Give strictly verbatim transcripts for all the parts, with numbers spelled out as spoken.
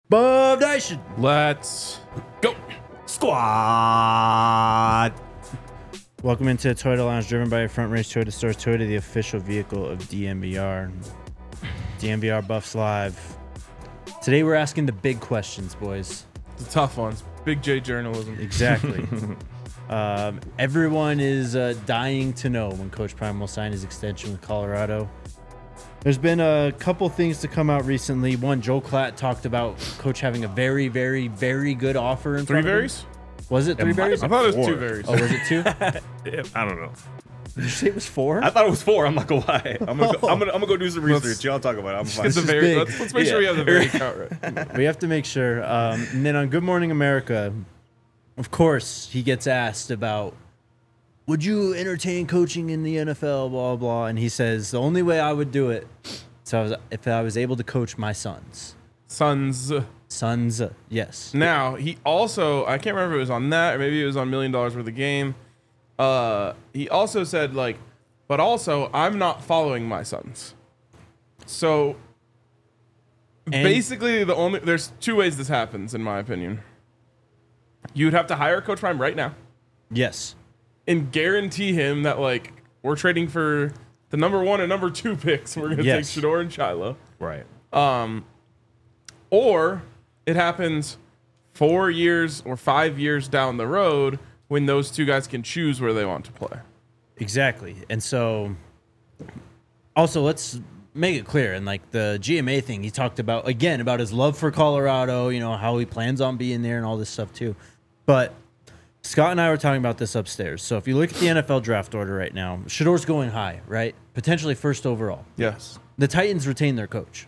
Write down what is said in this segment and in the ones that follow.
Bub Nation. Let's go. Squad. Welcome into Toyota Lounge, driven by your Front Range Toyota Stores. Toyota, the official vehicle of D M V R. D M V R Buffs Live. Today we're asking the big questions, boys. The tough ones. Big J journalism. Exactly. um, everyone is uh, dying to know when Coach Prime will sign his extension with Colorado. There's been a couple things to come out recently. One, Joel Klatt talked about Coach having a very, very, very good offer in Three front of him. berries? Was it three It might berries? I thought it was Four. two berries. Oh, was it two? I don't know. Did you say it was four? I thought it was four. I'm not gonna lie. I'm gonna go, I'm gonna, I'm gonna go do some Let's- research. Y'all talk about it. I'm fine. It's a is very. big. Let's, let's make sure we have the very count right. We have to make sure. Um, and then on Good Morning America, of course, he gets asked about, would you entertain coaching in the N F L, blah, blah. And he says, the only way I would do it is I was, if I was able to coach my sons. Sons. Sons, uh, yes. Now he also. I can't remember if it was on that or maybe it was on Million Dollars Worth of Game. Uh, he also said like, but also I'm not following my sons. So And- basically, the only there's two ways this happens in my opinion. You'd have to hire Coach Prime right now Yes. and guarantee him that like we're trading for the number one and number two picks. We're gonna Yes. take Shador and Shiloh. right. Um, or it happens four years or five years down the road when those two guys can choose where they want to play. Exactly. And so, also, let's make it clear. And like the G M A thing, he talked about, again, about his love for Colorado, you know, how he plans on being there and all this stuff too. But Scott and I were talking about this upstairs. So if you look at the N F L draft order right now, Shador's going high, right? Potentially first overall. Yes. The Titans retain their coach.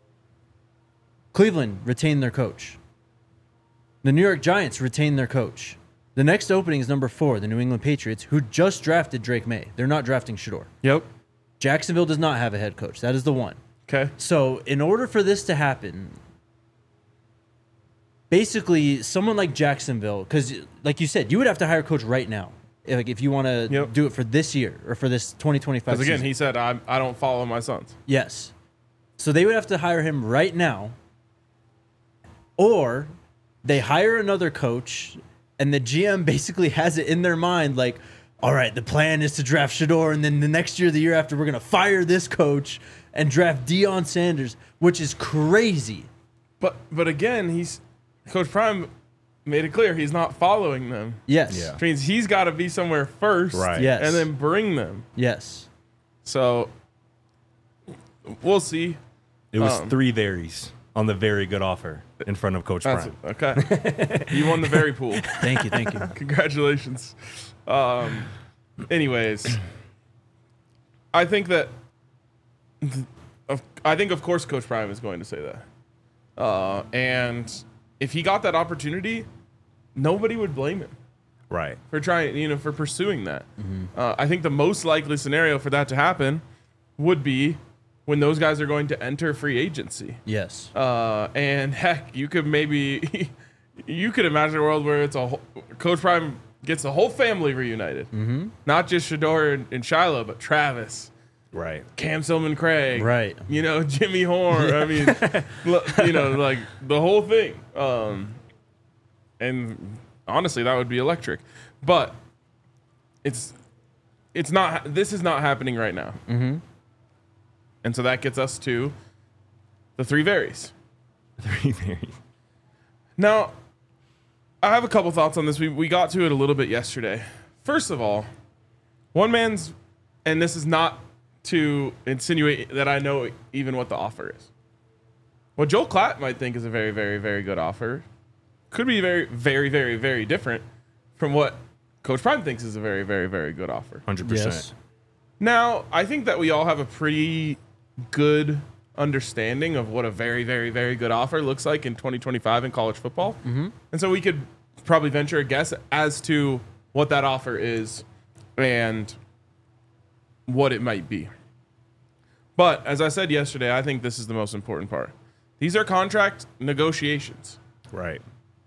Cleveland retained their coach. The New York Giants retain their coach. The next opening is number four, the New England Patriots, who just drafted Drake May. They're not drafting Shador. Yep. Jacksonville does not have a head coach. That is the one. Okay. So in order for this to happen, basically someone like Jacksonville, because like you said, you would have to hire a coach right now. Like if you want to Yep. do it for this year or for this twenty twenty-five Because again, season. he said I I don't follow my sons. Yes. So they would have to hire him right now. Or they hire another coach and the G M basically has it in their mind like, all right, the plan is to draft Shador and then the next year, the year after, we're going to fire this coach and draft Deion Sanders, which is crazy. But but again, he's Coach Prime made it clear he's not following them. Yes. Yeah. Which means he's got to be somewhere first, Right. Yes. and then bring them. Yes. So we'll see. It was Um, three varies on the very good offer in front of Coach That's Prime. okay. You won the very pool. Thank you. Thank you. Congratulations. Um, anyways, I think that, of- I think of course Coach Prime is going to say that, uh, and if he got that opportunity, nobody would blame him Right. for trying, you know, for pursuing that. Uh, I think the most likely scenario for that to happen would be when those guys are going to enter free agency. Yes. Uh, and heck, you could maybe, you could imagine a world where it's a whole, Coach Prime gets the whole family reunited. Mm-hmm. Not just Shador and, and Shiloh, but Travis, Right. Cam Silman Craig, Right. You know, Jimmy Horn. I mean, l- you know, like the whole thing. Um, and honestly, that would be electric. But it's, it's not, this is not happening right now. Mm-hmm. And so that gets us to the three varies. Three varies. Now, I have a couple thoughts on this. We we got to it a little bit yesterday. First of all, one man's, and this is not to insinuate that I know even what the offer is. What Joel Klatt might think is a very, very, very good offer could be very, very, very, very different from what Coach Prime thinks is a very, very, very good offer. one hundred percent. Yes. Now, I think that we all have a pretty good understanding of what a very, very, very good offer looks like in twenty twenty-five in college football. Mm-hmm. And so we could probably venture a guess as to what that offer is and what it might be. But as I said yesterday, I think this is the most important part. These are contract negotiations. Right.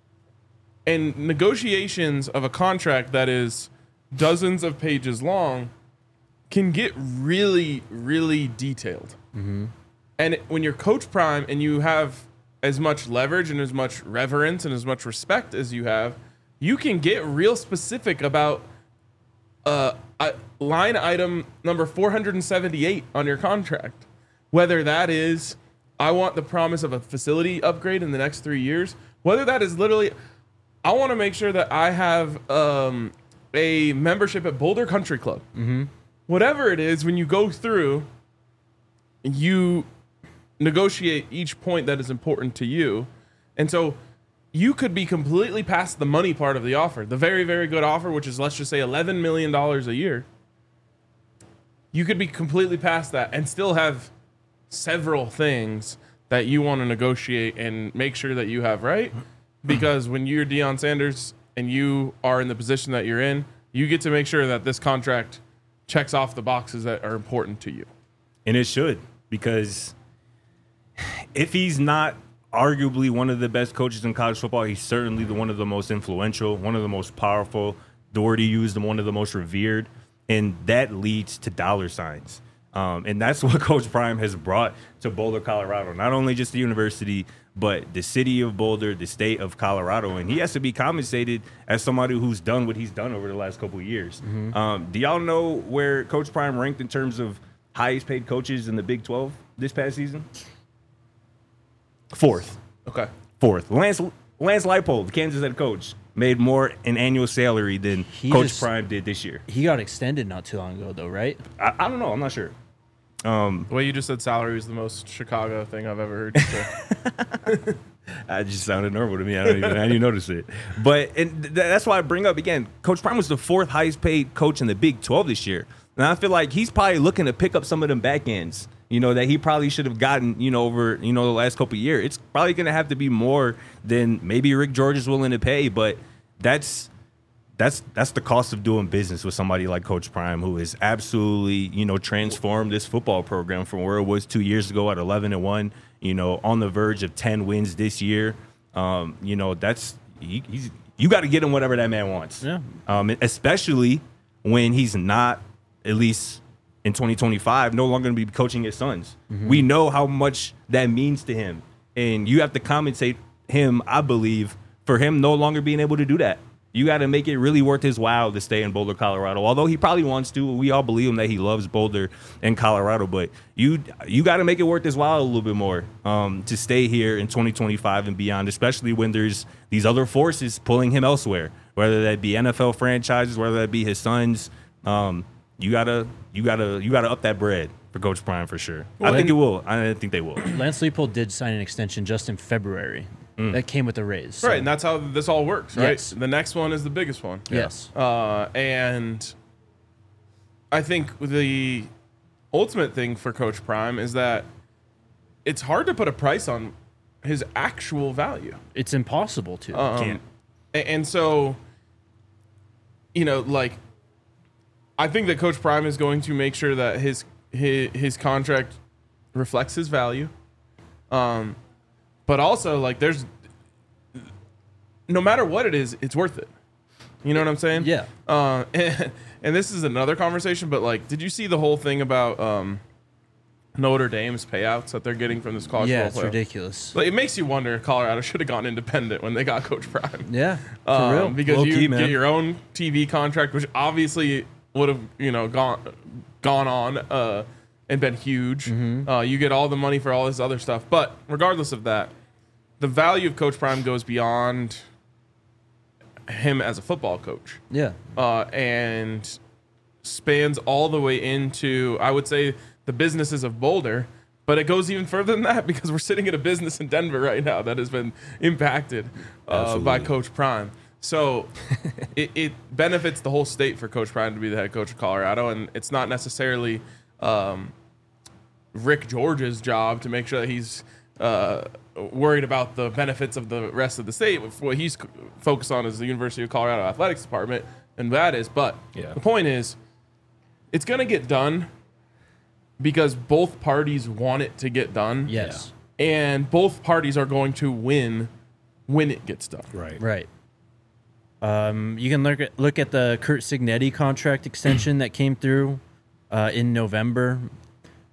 And negotiations of a contract that is dozens of pages long can get really, really detailed. Mm-hmm. And when you're Coach Prime and you have as much leverage and as much reverence and as much respect as you have, you can get real specific about uh, uh, line item number four hundred seventy-eight on your contract. Whether that is, I want the promise of a facility upgrade in the next three years, whether that is literally, I want to make sure that I have um, a membership at Boulder Country Club. Mm-hmm. Whatever it is, when you go through, you negotiate each point that is important to you. And so you could be completely past the money part of the offer, the very, very good offer, which is, let's just say eleven million dollars a year. You could be completely past that and still have several things that you want to negotiate and make sure that you have right. Because when you're Deion Sanders and you are in the position that you're in, you get to make sure that this contract checks off the boxes that are important to you. And it should, because if he's not arguably one of the best coaches in college football, he's certainly the one of the most influential, one of the most powerful. Doherty used him, one of the most revered, and that leads to dollar signs. Um, and that's what Coach Prime has brought to Boulder, Colorado. Not only just the university, but the city of Boulder, the state of Colorado. And he has to be compensated as somebody who's done what he's done over the last couple of years. Mm-hmm. Um, do y'all know where Coach Prime ranked in terms of highest paid coaches in the Big twelve this past season? Fourth. Okay. Fourth. Lance Lance Leipold, the Kansas head coach, made more in annual salary than He Coach just- Prime did this year. He got extended not too long ago, though, right? I, I don't know. I'm not sure. Um, The way you just said salary was the most Chicago thing I've ever heard you say. I just sounded normal to me. I don't even, I didn't even notice it. But and th- that's why I bring up again. Coach Prime was the fourth highest paid coach in the Big twelve this year, and I feel like he's probably looking to pick up some of them back ends. You know, that he probably should have gotten. You know, over you know the last couple of years. It's probably going to have to be more than maybe Rick George is willing to pay. But that's that's that's the cost of doing business with somebody like Coach Prime, who has absolutely you know transformed this football program from where it was two years ago at eleven and one. You know, on the verge of ten wins this year. Um, you know, that's he, he's you got to get him whatever that man wants. Yeah. Um, especially when he's not, at least in twenty twenty-five, no longer going to be coaching his sons. Mm-hmm. We know how much that means to him, and you have to compensate him, I believe, for him no longer being able to do that. You got to make it really worth his while to stay in Boulder, Colorado. Although he probably wants to, we all believe him that he loves Boulder and Colorado. But you you got to make it worth his while a little bit more um, to stay here in twenty twenty-five and beyond, especially when there's these other forces pulling him elsewhere, whether that be N F L franchises, whether that be his sons. Um, you gotta you gotta you gotta up that bread for Coach Prime for sure. Well, I think it will. I think they will. Lance Leipold did sign an extension just in February. Mm. That came with a raise. So. Right, and that's how this all works, right? Yes. The next one is the biggest one. Yes. Uh, and I think the ultimate thing for Coach Prime is that it's hard to put a price on his actual value. It's impossible to. Um, Can't. a- And so, you know, like, I think that Coach Prime is going to make sure that his his, his contract reflects his value. Um, but also, like, there's no matter what it is, it's worth it. You know what I'm saying? Yeah. Uh, and, and this is another conversation, but like, did you see the whole thing about um, Notre Dame's payouts that they're getting from this college Yeah, football it's player? ridiculous. Like, it makes you wonder if Colorado should have gone independent when they got Coach Prime. Yeah, for Um, real. because Low-key, you man. get your own T V contract, which obviously would have you know gone gone on uh, and been huge. Mm-hmm. Uh, you get all the money for all this other stuff, but regardless of that, the value of Coach Prime goes beyond him as a football coach, Yeah. uh, and spans all the way into, I would say, the businesses of Boulder. But it goes even further than that because we're sitting in a business in Denver right now that has been impacted uh, by Absolutely. Coach Prime. So it, it benefits the whole state for Coach Prime to be the head coach of Colorado, and it's not necessarily um, Rick George's job to make sure that he's uh, worried about the benefits of the rest of the state. What he's c- focused on is the University of Colorado Athletics Department, and that is. But Yeah. the point is, it's going to get done because both parties want it to get done. Yes. And both parties are going to win when it gets done. Right. Right. Um, you can look at look at the Kurt Signetti contract extension that came through uh, in November.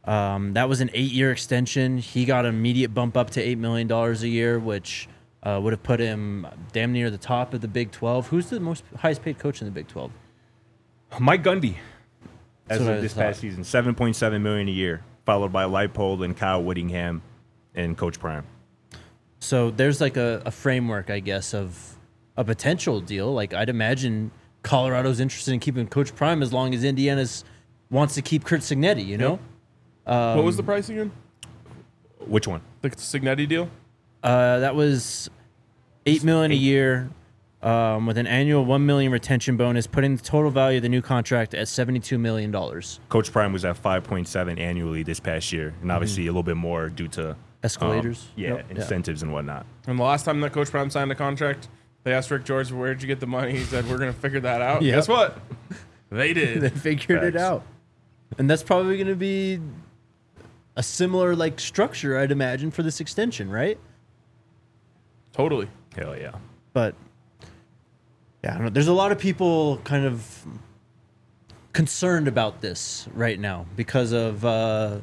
Um, that was an eight-year extension. He got an immediate bump up to eight million dollars a year, which uh, would have put him damn near the top of the Big twelve. Who's the most highest-paid coach in the Big twelve? Mike Gundy, as That's what I of this thought. past season, seven point seven million dollars a year, followed by Leipold and Kyle Whittingham and Coach Prime. So there's like a, a framework, I guess, of a potential deal. Like I'd imagine Colorado's interested in keeping Coach Prime as long as Indiana's wants to keep Kurt Signetti, you know? Um, what was the price again? Which one? The Signetti deal? Uh, that was eight million a year, um, with an annual one million retention bonus, putting the total value of the new contract at seventy-two million dollars. Coach Prime was at five point seven annually this past year, and obviously a little bit more due to um, Escalators? yeah, Yep. incentives and whatnot. And the last time that Coach Prime signed a contract, they asked Rick George, where'd you get the money? He said, we're going to figure that out. Yep. Guess what? They They did. figured it Facts. out. And that's probably going to be a similar like structure, I'd imagine, for this extension, right? Totally. Hell yeah. But yeah, I don't know. There's a lot of people kind of concerned about this right now because of uh,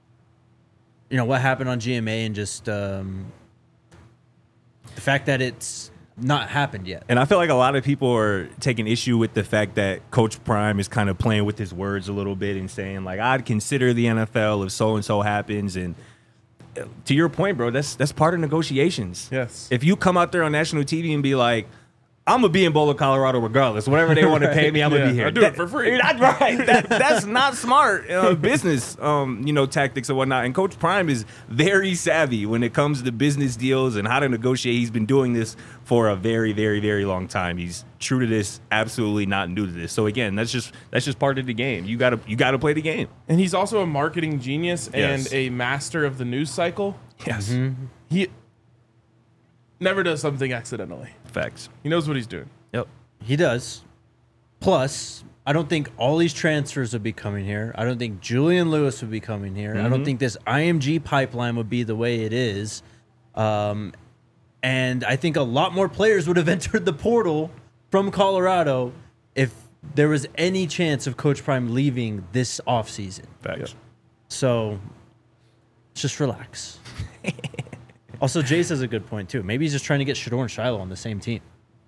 you know what happened on G M A and just um, the fact that it's not happened yet. And I feel like a lot of people are taking issue with the fact that Coach Prime is kind of playing with his words a little bit and saying, like, I'd consider the N F L if so-and-so happens. And uh, to your point, bro, that's that's part of negotiations. Yes. If you come out there on national T V and be like, I'm going to be in Boulder, Colorado regardless. Whatever they want to pay me, I'm going to Yeah, be here. I do it for free. That's right. That, that's not smart uh, business, um, you know, tactics and whatnot. And Coach Prime is very savvy when it comes to business deals and how to negotiate. He's been doing this for a very, very, very long time. He's true to this, absolutely not new to this. So again, that's just that's just part of the game. You gotta you gotta play the game. And he's also a marketing genius Yes. and a master of the news cycle. Yes. He never does something accidentally. Facts. He knows what he's doing. Yep. He does. Plus, I don't think all these transfers would be coming here. I don't think Julian Lewis would be coming here. I don't think this I M G pipeline would be the way it is. Um, and I think a lot more players would have entered the portal from Colorado if there was any chance of Coach Prime leaving this offseason. Facts. So just relax. Also, Jace has a good point, too. Maybe he's just trying to get Shador and Shiloh on the same team.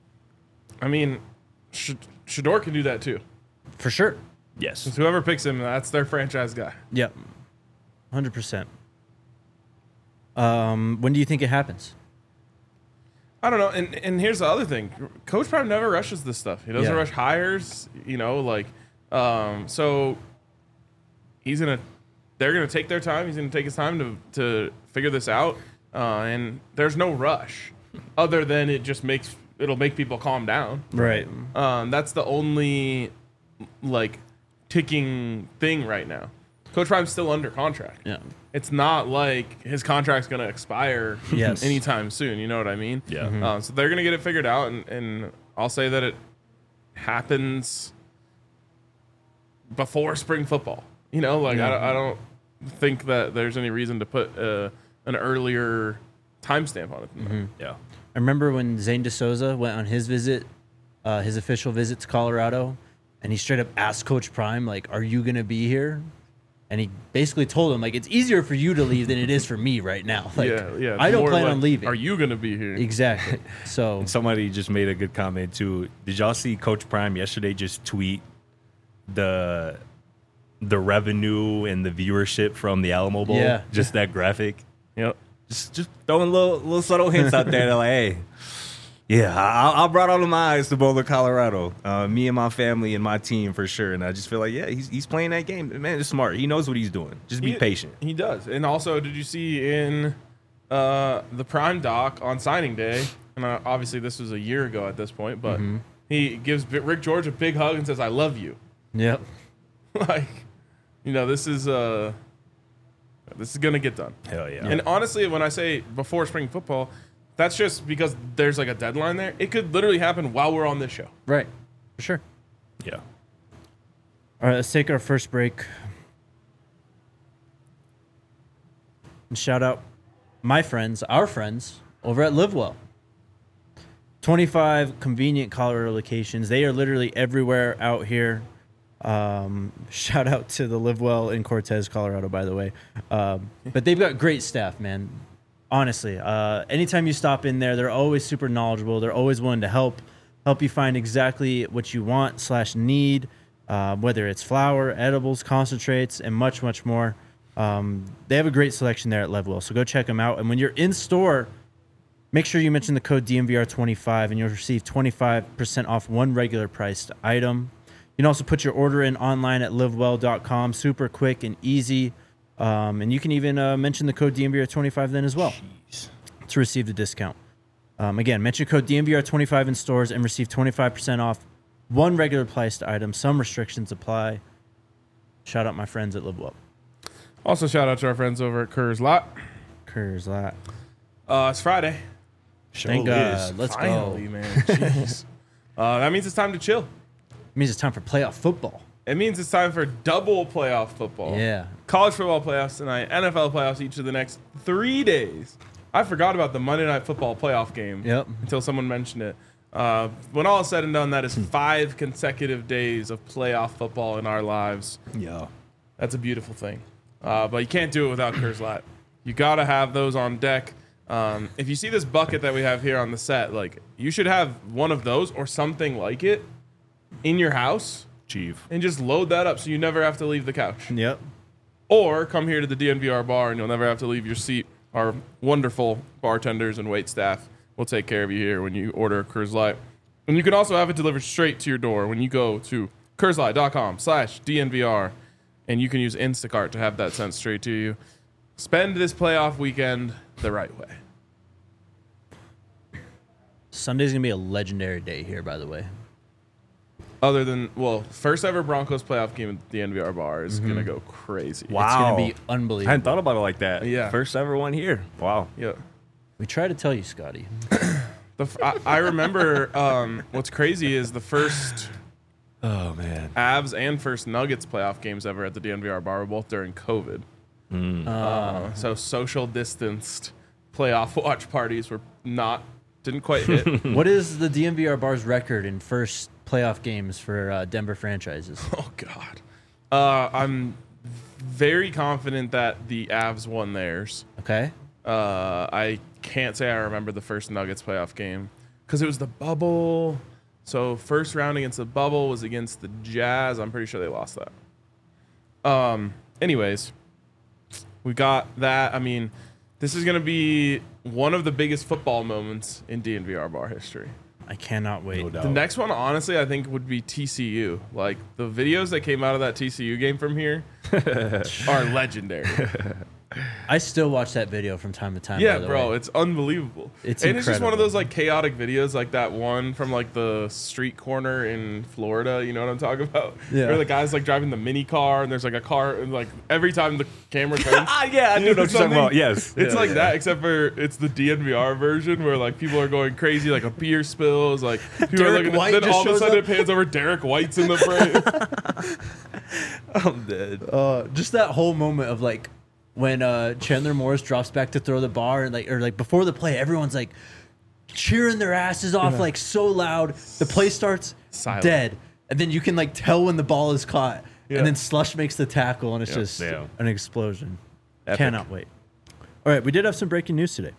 I mean, Sh- Shador can do that too. For sure. Yes. Since whoever picks him, that's their franchise guy. Yep. one hundred percent. Um, when do you think it happens? I don't know. And and here's the other thing. Coach Prime never rushes this stuff. He doesn't Yeah. rush hires, you know, like um so he's going to they're going to take their time. He's going to take his time to to figure this out. Uh, and there's no rush other than it just makes it'll make people calm down. Right. Um, that's the only like ticking thing right now. Coach Prime's still under contract. Yeah. It's not like his contract's going to expire Yes. anytime soon. You know what I mean? Yeah. Mm-hmm. Uh, so they're going to get it figured out, and, and I'll say that it happens before spring football. You know, like I, don't- I don't think that there's any reason to put uh, an earlier timestamp on it. than that. Mm-hmm. Yeah. I remember when Zane DeSouza went on his visit, uh, his official visit to Colorado, and he straight up asked Coach Prime, like, are you going to be here? And he basically told him, like, it's easier for you to leave than it is for me right now. Like, yeah, yeah. it's I don't more plan like, on leaving. Are you going to be here? Exactly. So, Somebody just made a good comment too. Did y'all see Coach Prime yesterday just tweet the the revenue and the viewership from the Alamo Bowl? Yeah. Just that graphic. Yep. Just just throwing little little subtle hints out there. They're like, hey, yeah, I, I brought all of my eyes to Boulder, Colorado. Uh, me and my family and my team for sure. And I just feel like, yeah, he's he's playing that game. Man, it's smart. He knows what he's doing. Just be He- patient. He does. And also, did you see in uh, the Prime doc on signing day? And uh, obviously, this was a year ago at this point, but Mm-hmm. he gives B- Rick George a big hug and says, "I love you." yep. Like, you know, this is uh, this is gonna get done. Hell yeah. And honestly, when I say before spring football, that's just because there's like a deadline there. It could literally happen while we're on this show. Right. For sure. yeah. All right, let's take our first break. And shout out my friends, our friends, over at LiveWell. twenty-five convenient Colorado locations. They are literally everywhere out here. Um, shout out to the Live Well in Cortez, Colorado, by the way. Um, but they've got great staff, man. Honestly, uh, anytime you stop in there, they're always super knowledgeable. They're always willing to help, help you find exactly what you want slash need, uh, whether it's flour, edibles, concentrates, and much, much more. Um, they have a great selection there at Live Well, so go check them out. And when you're in store, make sure you mention the code D M V R twenty-five, and you'll receive twenty-five percent off one regular priced item. You can also put your order in online at live well dot com. Super quick and easy. Um, and you can even uh, mention the code D M V R twenty-five then as well Jeez. to receive the discount. Um, again, mention code D M V R twenty-five in stores and receive twenty-five percent off one regular priced item. Some restrictions apply. Shout out my friends at Live Well. Also, shout out to our friends over at Kerr's Lot. Kerr's Lot. Uh, it's Friday. Sure Thank is. God. Let's Finally, go. man. Jeez. uh, that means it's time to chill. It means it's time for playoff football. It means it's time for double playoff football. Yeah. College football playoffs tonight, N F L playoffs each of the next three days. I forgot about the Monday Night Football playoff game Yep. until someone mentioned it. Uh, when all is said and done, that is five consecutive days of playoff football in our lives. Yeah. That's a beautiful thing. Uh, but you can't do it without Kerr's Lot. You got to have those on deck. Um, if you see this bucket that we have here on the set, like you should have one of those or something like it in your house Chief. and just load that up so you never have to leave the couch. Yep. Or come here to the D N V R bar and you'll never have to leave your seat. Our wonderful bartenders and wait staff will take care of you here when you order a Kerr's Light. And you can also have it delivered straight to your door when you go to kerslight dot com slash D N V R, and you can use Instacart to have that sent straight to you. Spend this playoff weekend the right way. Sunday's going to be a legendary day here, by the way. Other than, well, first ever Broncos playoff game at the N V R bar is Mm-hmm. going to go crazy. Wow. It's going to be I unbelievable. hadn't thought about it like that. Yeah. First ever one here. Wow. Yeah. We try to tell you, Scotty. The f- I, I remember um, what's crazy is the first Oh, man. Avs and first Nuggets playoff games ever at the D N V R bar were both during COVID. Uh, so social distanced playoff watch parties were not, didn't quite hit. What is the D M V R bar's record in first playoff games for uh, Denver franchises? Oh, God. Uh, I'm very confident that the Avs won theirs. Okay. Uh, I can't say I remember the first Nuggets playoff game because it was the bubble. So first round against the bubble was against the Jazz. I'm pretty sure they lost that. Um. Anyways, we got that. I mean, this is going to be one of the biggest football moments in D N V R bar history. I cannot wait. No doubt. The next one, honestly, I think would be T C U. Like the videos that came out of that T C U game from here are legendary. I still watch that video from time to time. Yeah, by the bro, way. it's unbelievable. It's and it's just one of incredible. those like chaotic videos, like that one from like the street corner in Florida. You know what I'm talking about? Yeah. Where the guy's like driving the mini car, and there's like a car, and like every time the camera turns, Ah, yeah, I do know what you're talking something- about. Yes. it's Yeah, like yeah. that, except for it's the D N V R version where like people are going crazy, like a beer spills, like people Derek are looking. White Then just all of a shows sudden up. it pans over. Derek White's in the frame. I'm dead. Uh, just that whole moment of like when uh, Chandler Morris drops back to throw the bar, and like or like before the play, everyone's like cheering their asses off like so loud. The play starts Silent. dead, and then you can like tell when the ball is caught, Yeah. and then Slush makes the tackle, and it's Yeah. just Yeah. an explosion. Epic. Cannot wait. All right, we did have some breaking news today.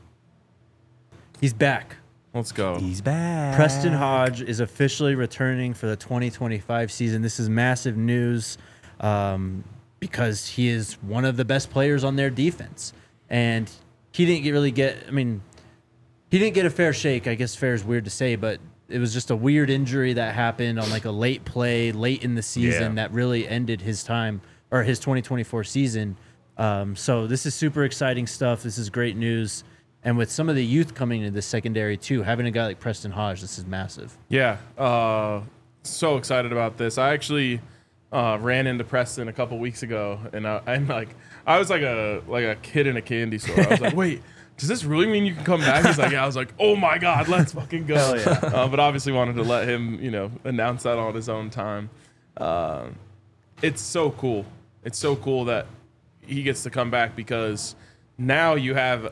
He's back. Let's go. He's back. Preston Hodge is officially returning for the twenty twenty-five season. This is massive news um, because he is one of the best players on their defense. And he didn't get really get, I mean, he didn't get a fair shake. I guess fair is weird to say, but it was just a weird injury that happened on like a late play, late in the season Yeah. that really ended his time or his twenty twenty-four season. Um, so this is super exciting stuff. This is great news. And with some of the youth coming into the secondary too, having a guy like Preston Hodge, this is massive. Yeah, uh, so excited about this. I actually uh, ran into Preston a couple weeks ago, and I, I'm like, I was like a like a kid in a candy store. I was like, wait, does this really mean you can come back? He's like, yeah. I was like, oh my god, let's fucking go. Hell yeah. Uh, but obviously wanted to let him, you know, announce that on his own time. Uh, it's so cool. It's so cool that he gets to come back because now you have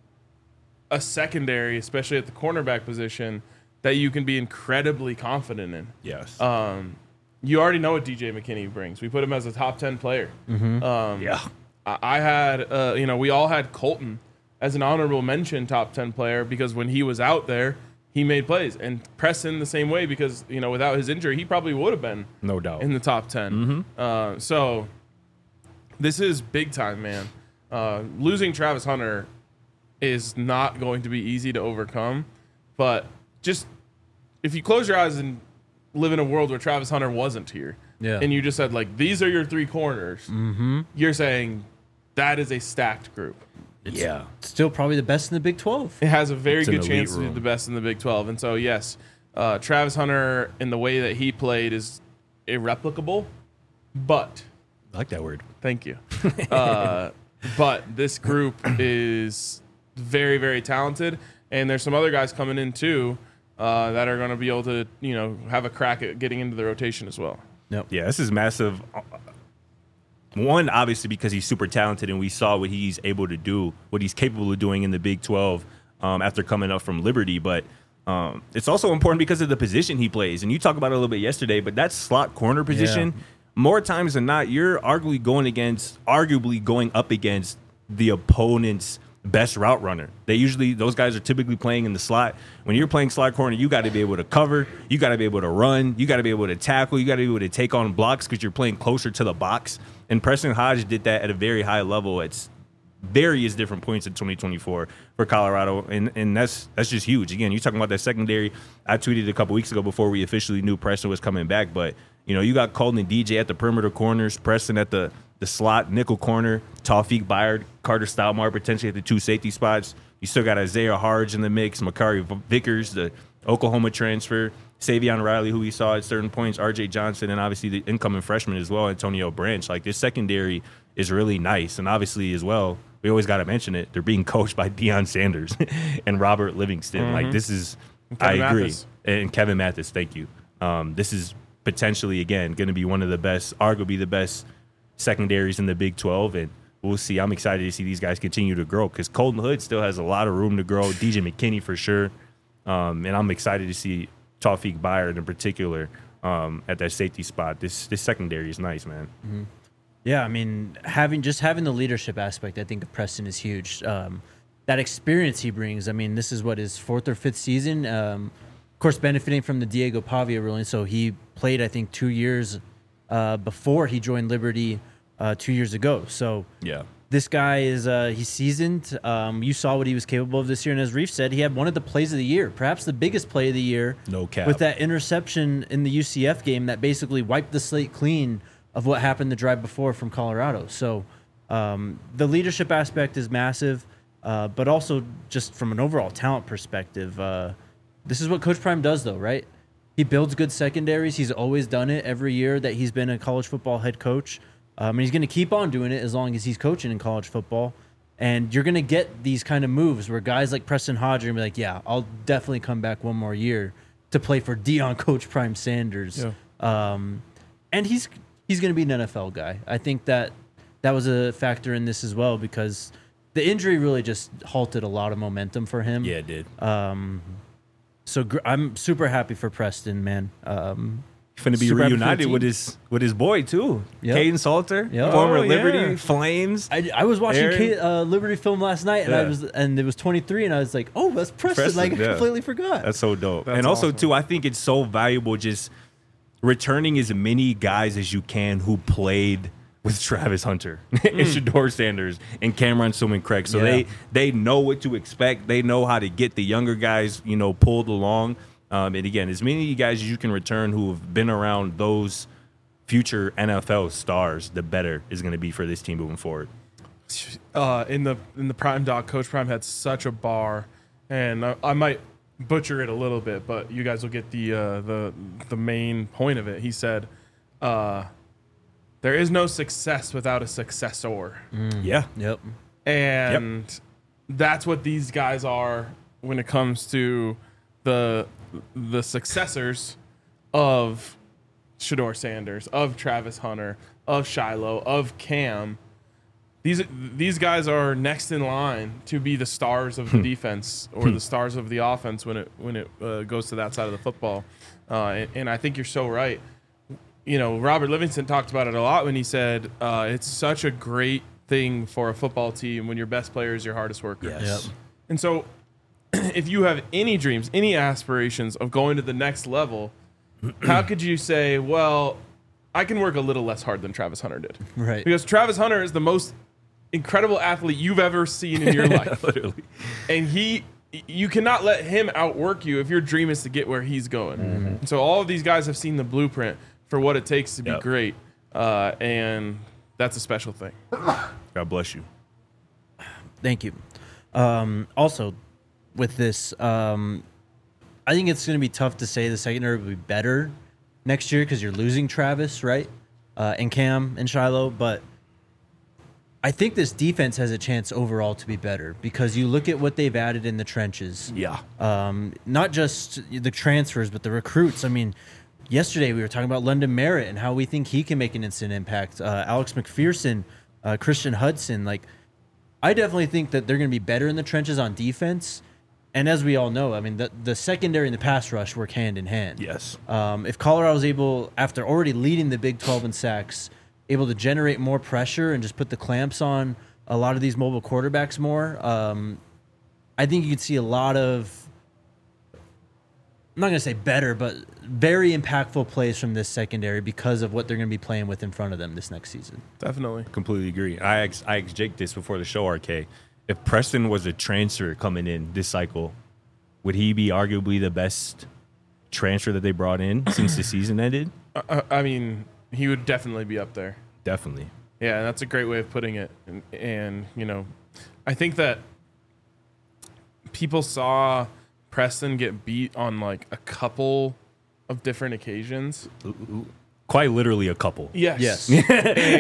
a secondary, especially at the cornerback position, that you can be incredibly confident in. Yes. Um, you already know what D J McKinney brings. We put him as a top ten player. Mm-hmm. Um, Yeah. I, I had, uh, you know, we all had Colton as an honorable mention top ten player because when he was out there, he made plays. And Preston the same way because, you know, without his injury, he probably would have been No doubt. in the top ten. Mm-hmm. Uh, so this is big time, man. Uh, losing Travis Hunter is not going to be easy to overcome. But just if you close your eyes and live in a world where Travis Hunter wasn't here, Yeah. and you just said, like, these are your three corners, Mm-hmm. you're saying that is a stacked group. It's Yeah. still probably the best in the Big twelve. It has a very It's an good elite chance to be room. the best in the Big twelve. And so, yes, uh, Travis Hunter in the way that he played is irreplicable, but I like that word. thank you. Uh, but this group is very, very talented, and there's some other guys coming in too uh, that are going to be able to, you know, have a crack at getting into the rotation as well. Yep. Yeah, this is massive. One, obviously, because he's super talented, and we saw what he's able to do, what he's capable of doing in the Big twelve um, after coming up from Liberty. But um, it's also important because of the position he plays. And you talked about it a little bit yesterday, but that slot corner position, Yeah. more times than not, you're arguably going against, arguably going up against the opponent's best route runner. They usually, those guys are typically playing in the slot. When you're playing slot corner, you got to be able to cover, you got to be able to run, you got to be able to tackle, you got to be able to take on blocks because you're playing closer to the box. And Preston Hodge did that at a very high level at various different points in twenty twenty-four for Colorado, and and that's that's just huge. Again, you're talking about that secondary. I tweeted a couple weeks ago before we officially knew Preston was coming back, but you know, you got Colton and D J at the perimeter corners, Preston at the the slot nickel corner, Tawfiq Byard, Carter Stoudemire potentially at the two safety spots. You still got Isaiah Harge in the mix, Makari Vickers, the Oklahoma transfer, Savion Riley, who we saw at certain points, R J Johnson, and obviously the incoming freshman as well, Antonio Branch. Like, this secondary is really nice. And obviously as well, we always got to mention it, they're being coached by Deion Sanders and Robert Livingston. Mm-hmm. Like, this is, Kevin I agree. Mathis. And Kevin Mathis, thank you. Um, this is potentially, again, going to be one of the best, arguably the best secondaries in the Big twelve. And we'll see. I'm excited to see these guys continue to grow because Colton Hood still has a lot of room to grow. D J McKinney for sure. Um, and I'm excited to see Tawfiq Byard in particular um, at that safety spot. This this secondary is nice, man. Mm-hmm. Yeah, I mean, having just having the leadership aspect, I think of Preston is huge. Um, that experience he brings. I mean, this is what his fourth or fifth season. Um, of course, benefiting from the Diego Pavia ruling. So he played, I think, two years uh, before he joined Liberty uh, two years ago. So Yeah. this guy is uh, he's seasoned. Um, you saw what he was capable of this year, and as Reef said, he had one of the plays of the year, perhaps the biggest play of the year. No cap. With that interception in the U C F game that basically wiped the slate clean of what happened the drive before from Colorado. So um, the leadership aspect is massive, uh, but also just from an overall talent perspective, uh, this is what Coach Prime does, though, right? He builds good secondaries. He's always done it every year that he's been a college football head coach. Um, and he's going to keep on doing it as long as he's coaching in college football. And you're going to get these kind of moves where guys like Preston Hodge are going to be like, yeah, I'll definitely come back one more year to play for Deion Coach Prime Sanders. Yeah. Um, and he's he's going to be an N F L guy. I think that that was a factor in this as well because the injury really just halted a lot of momentum for him. Yeah, it did. Um, so gr- I'm super happy for Preston, man. Um, Finna be super happy for the reunited team. with his with his boy too, Yep. Caden Salter, Yep. former Oh, Liberty yeah. Flames. I, I was watching Aaron? Kate, uh, Liberty film last night, and I Yeah. was and it was twenty-three, and I was like, "Oh, that's Preston!" Preston, like I yeah. completely forgot. That's so dope. That's and also awesome. too, I think it's so valuable just returning as many guys as you can who played with Travis Hunter and Shador Sanders and Cameron Suman Craig. So Yeah. they they know what to expect. They know how to get the younger guys, you know, pulled along. Um, and again, as many of you guys as you can return who have been around those future N F L stars, the better is going to be for this team moving forward. Uh, in the in the Prime Doc, Coach Prime had such a bar, and I, I might butcher it a little bit, but you guys will get the uh, the the main point of it. He said, uh, "There is no success without a successor," Yeah. Yep. and that's what these guys are when it comes to the the successors of Shador Sanders, of Travis Hunter, of Shiloh, of Cam. These these guys are next in line to be the stars of the defense or the stars of the offense when it when it uh, goes to that side of the football. Uh, and, and I think you're so right. you know, Robert Livingston talked about it a lot when he said uh, it's such a great thing for a football team when your best player is your hardest worker. Yes. Yep. And so if you have any dreams, any aspirations of going to the next level, how could you say, well, I can work a little less hard than Travis Hunter did? Right. Because Travis Hunter is the most incredible athlete you've ever seen in your life. Literally. And he, you cannot let him outwork you if your dream is to get where he's going. Mm-hmm. And so all of these guys have seen the blueprint for what it takes to be Yep. great. Uh, and that's a special thing. God bless you. Thank you. Um, also, with this, um, I think it's going to be tough to say the secondary will be better next year because you're losing Travis, right? Uh, and Cam and Shiloh. But I think this defense has a chance overall to be better because you look at what they've added in the trenches. Yeah. Um, not just the transfers, but the recruits. I mean, yesterday we were talking about London Merritt and how we think he can make an instant impact. Uh, Alex McPherson, uh, Christian Hudson. Like, I definitely think that they're going to be better in the trenches on defense. And as we all know, I mean, the, the secondary and the pass rush work hand in hand. Yes. Um, if Colorado's able, after already leading the Big twelve in sacks, able to generate more pressure and just put the clamps on a lot of these mobile quarterbacks more, um, I think you could see a lot of, I'm not going to say better, but very impactful plays from this secondary because of what they're going to be playing with in front of them this next season. Definitely. Completely agree. I asked, I asked Jake this before the show, R K. If Preston was a transfer coming in this cycle, would he be arguably the best transfer that they brought in since the season ended? Uh, I mean, he would definitely be up there. Definitely. Yeah, that's a great way of putting it. And, and, you know, I think that people saw Preston get beat on like a couple of different occasions. Quite literally a couple. Yes. Yes.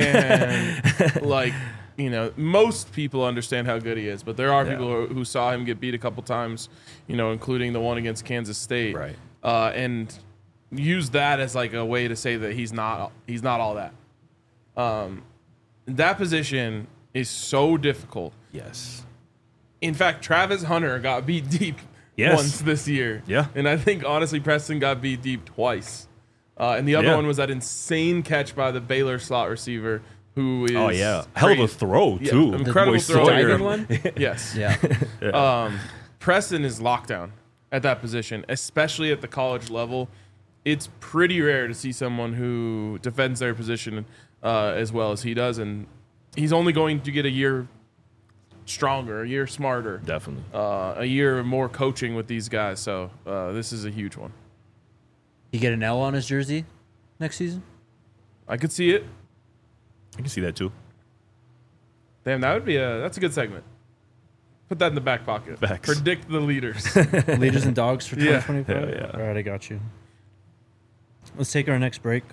And like, you know, most people understand how good he is, but there are Yeah. people who, who saw him get beat a couple times, you know, including the one against Kansas State. Right. Uh, and use that as like a way to say that he's not he's not all that. Um, that position is so difficult. Yes. In fact, Travis Hunter got beat deep Yes. once this year. Yeah. And I think, honestly, Preston got beat deep twice. Uh, and the other Yeah. one was that insane catch by the Baylor slot receiver who is Oh, yeah. Hell of a crazy. throw, Yeah, too. incredible Boy throw. Sawyer. Diving one? Yes. Yeah. Um, Preston is lockdown at that position, especially at the college level. It's pretty rare to see someone who defends their position uh, as well as he does. And he's only going to get a year stronger, a year smarter. Definitely. Uh, a year more coaching with these guys. So uh, this is a huge one. He get an L on his jersey next season? I could see it. I can see that, too. Damn, that would be a that's a good segment. Put that in the back pocket. Facts. Predict the leaders. Leaders and dogs for Yeah. twenty twenty-five? Yeah, yeah. All right, I got you. Let's take our next break.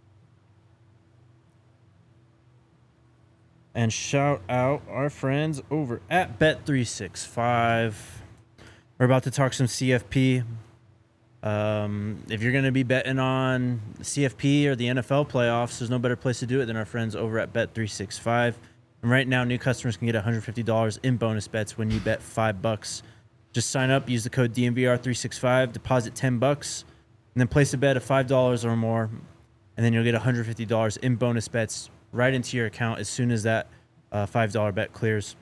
And shout out our friends over at Bet three sixty-five. We're about to talk some C F P. Um, if you're going to be betting on C F P or the N F L playoffs, there's no better place to do it than our friends over at Bet three sixty-five. And right now, new customers can get one hundred fifty dollars in bonus bets when you bet five bucks. Just sign up, use the code D N V R three sixty-five, deposit ten bucks, and then place a bet of five dollars or more, and then you'll get one hundred fifty dollars in bonus bets right into your account as soon as that uh, five dollar bet clears.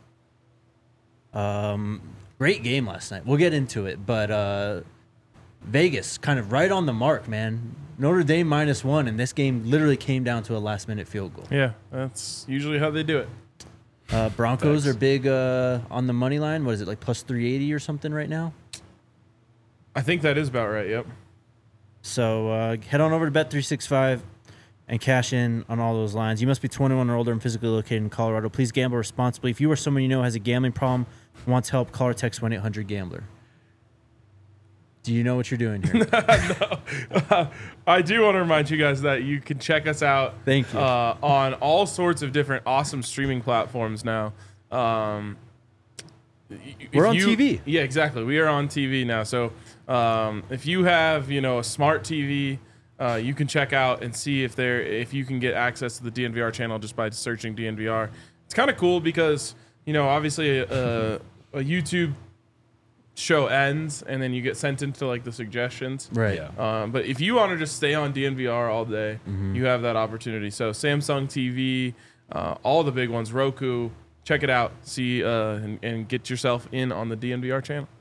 Um, great game last night. We'll get into it, but uh, Vegas kind of right on the mark, man. Notre Dame minus one, and this game literally came down to a last minute field goal. Yeah, that's usually how they do it. Uh, Broncos Thanks. are big uh, on the money line. What is it, like plus three eighty or something right now? I think that is about right. Yep. So uh, head on over to Bet three sixty-five and cash in on all those lines. You must be twenty-one or older and physically located in Colorado. Please gamble responsibly. If you or someone you know has a gambling problem, wants help, call or text one eight hundred gambler. Do you know what you're doing here? I do want to remind you guys that you can check us out. Thank you. Uh, on all sorts of different awesome streaming platforms now. Um, if We're on you- T V. Yeah, exactly. We are on T V now. So um, if you have, you know, a smart T V, uh, you can check out and see if there if you can get access to the D N V R channel just by searching D N V R. It's kind of cool because, you know, obviously a, a YouTube show ends and then you get sent into like the suggestions. Right. Yeah. Um, but if you want to just stay on D N V R all day, Mm-hmm. you have that opportunity. So Samsung T V, uh, all the big ones, Roku, check it out. See uh, and, and get yourself in on the D N V R channel.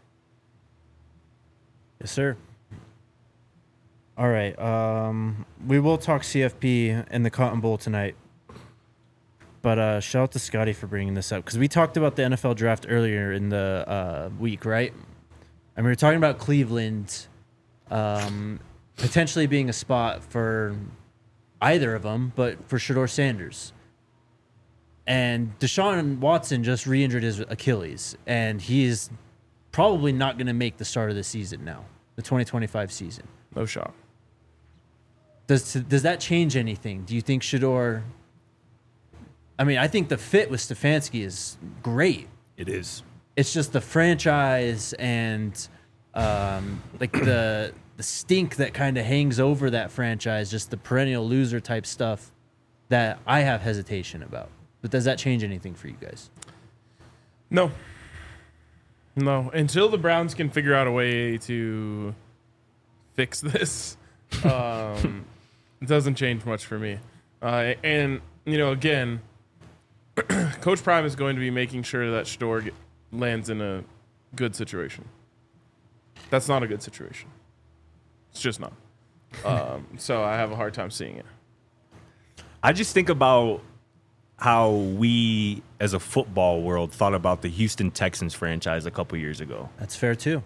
Yes, sir. All right. Um, we will talk C F P and the Cotton Bowl tonight. But uh, shout out to Scotty for bringing this up because we talked about the N F L draft earlier in the uh, week, right? And we were talking about Cleveland um, potentially being a spot for either of them, but for Shedeur Sanders. And Deshaun Watson just re-injured his Achilles, and he is probably not going to make the start of the season now, the twenty twenty-five season. No shock. Does does that change anything? Do you think Shedeur? I mean, I think the fit with Stefanski is great. It is. It's just the franchise and um, like the the stink that kind of hangs over that franchise, just the perennial loser type stuff that I have hesitation about. But does that change anything for you guys? No. No. Until the Browns can figure out a way to fix this, um, it doesn't change much for me. Uh, and, you know, again, Coach Prime is going to be making sure that Shedeur get, lands in a good situation. That's not a good situation. It's just not. Um, so I have a hard time seeing it. I just think about how we, as a football world, thought about the Houston Texans franchise a couple years ago. That's fair too.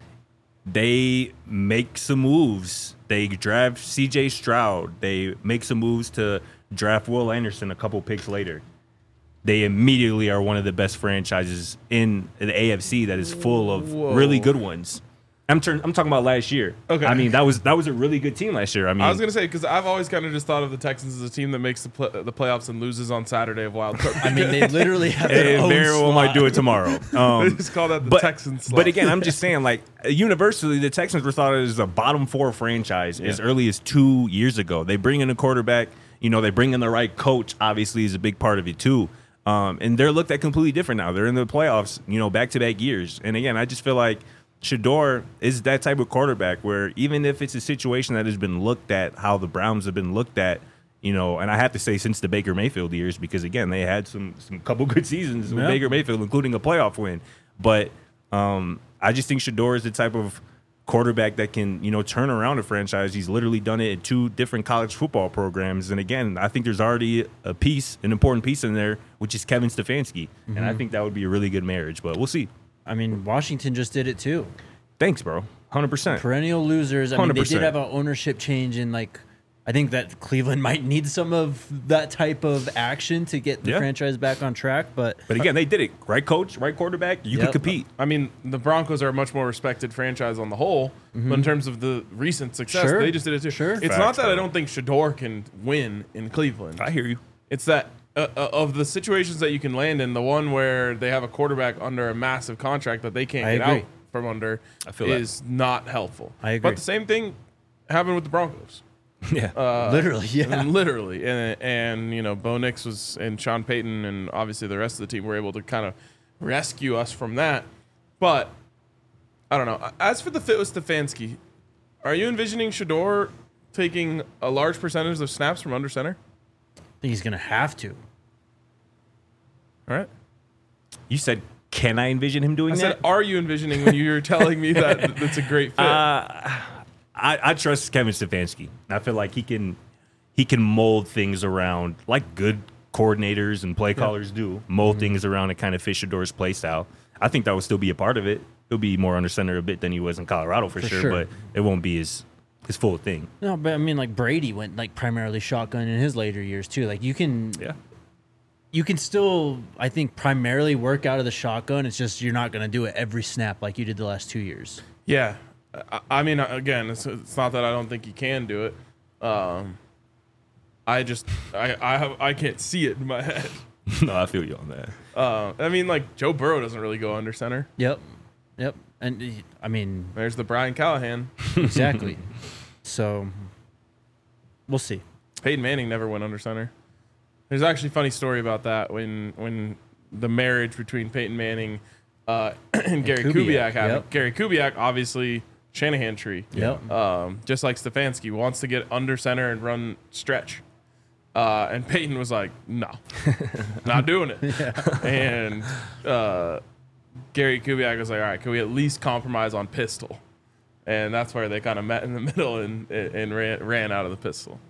They make some moves. They draft C J Stroud. They make some moves to draft Will Anderson a couple picks later. They immediately are one of the best franchises in the A F C that is full of Whoa. really good ones. I'm turn, I'm talking about last year. Okay. I mean, that was that was a really good team last year. I mean, I was going to say, because I've always kind of just thought of the Texans as a team that makes the, pl- the playoffs and loses on Saturday of wild card. I mean, they literally have their they own very well slot. might do it tomorrow. Um, They just call that the but, Texans slot. But again, I'm just saying, like, universally, the Texans were thought of as a bottom four franchise as early as two years ago. They bring in a quarterback. You know, they bring in the right coach, obviously, is a big part of it, too. Um, and they're looked at completely different now. They're in the playoffs, you know, back-to-back years. And again, I just feel like Shedeur is that type of quarterback where even if it's a situation that has been looked at how the Browns have been looked at, you know, and I have to say since the Baker Mayfield years, because again, they had some some couple good seasons with Yeah. Baker Mayfield, including a playoff win. But um, I just think Shedeur is the type of quarterback that can, you know, turn around a franchise. He's literally done it in two different college football programs. And again, I think there's already a piece, an important piece in there, which is Kevin Stefanski. Mm-hmm. And I think that would be a really good marriage, but we'll see. I mean, Washington just did it too. Thanks, bro. one hundred percent. Perennial losers. I mean, they one hundred percent. did have an ownership change, and like, I think that Cleveland might need some of that type of action to get the Yeah. franchise back on track. But But again, they did it. Right coach, right quarterback, you Yep. could compete. I mean, the Broncos are a much more respected franchise on the whole, but in terms of the recent success, Sure. they just did it too. Sure. It's Facts, not that bro. I don't think Shedeur can win in Cleveland. I hear you. It's that uh, uh, of the situations that you can land in, the one where they have a quarterback under a massive contract that they can't I get agree. out from under I feel that. is not helpful. I agree. But the same thing happened with the Broncos. Yeah. Uh, literally, yeah. Literally. And, and, you know, Bo Nix was, and Sean Payton and obviously the rest of the team were able to kind of rescue us from that. But, I don't know. As for the fit with Stefanski, are you envisioning Shedeur taking a large percentage of snaps from under center? I think he's gonna have to. All right. You said, can I envision him doing I that? said, are you envisioning when you were telling me that that's a great fit? Uh, I, I trust Kevin Stefanski. I feel like he can he can mold things around like good coordinators and play callers do. Mold Mm-hmm. things around and kind of fit Shedor's play style. I think that would still be a part of it. He'll be more under center a bit than he was in Colorado for, For sure, sure. but it won't be his his full thing. No, but I mean, like Brady went like primarily shotgun in his later years too. Like you can, Yeah. you can still, I think, primarily work out of the shotgun. It's just you're not gonna do it every snap like you did the last two years. Yeah. I, I mean, again, it's, it's not that I don't think he can do it. Um, I just, I, I, have, I can't see it in my head. No, I feel you on that. Uh, I mean, like, Joe Burrow doesn't really go under center. Yep, yep. And he- I mean, There's the Brian Callahan. exactly. So we'll see. Peyton Manning never went under center. There's actually a funny story about that when when the marriage between Peyton Manning uh, and Gary Kubiak, Kubiak have yep. it. Gary Kubiak, obviously, Shanahan tree. Yep. Um, just like Stefanski wants to get under center and run stretch. Uh, and Peyton was like, no, not doing it. Yeah. And uh, Gary Kubiak was like, all right, can we at least compromise on pistol? And that's where they kind of met in the middle and, and ran, ran out of the pistol.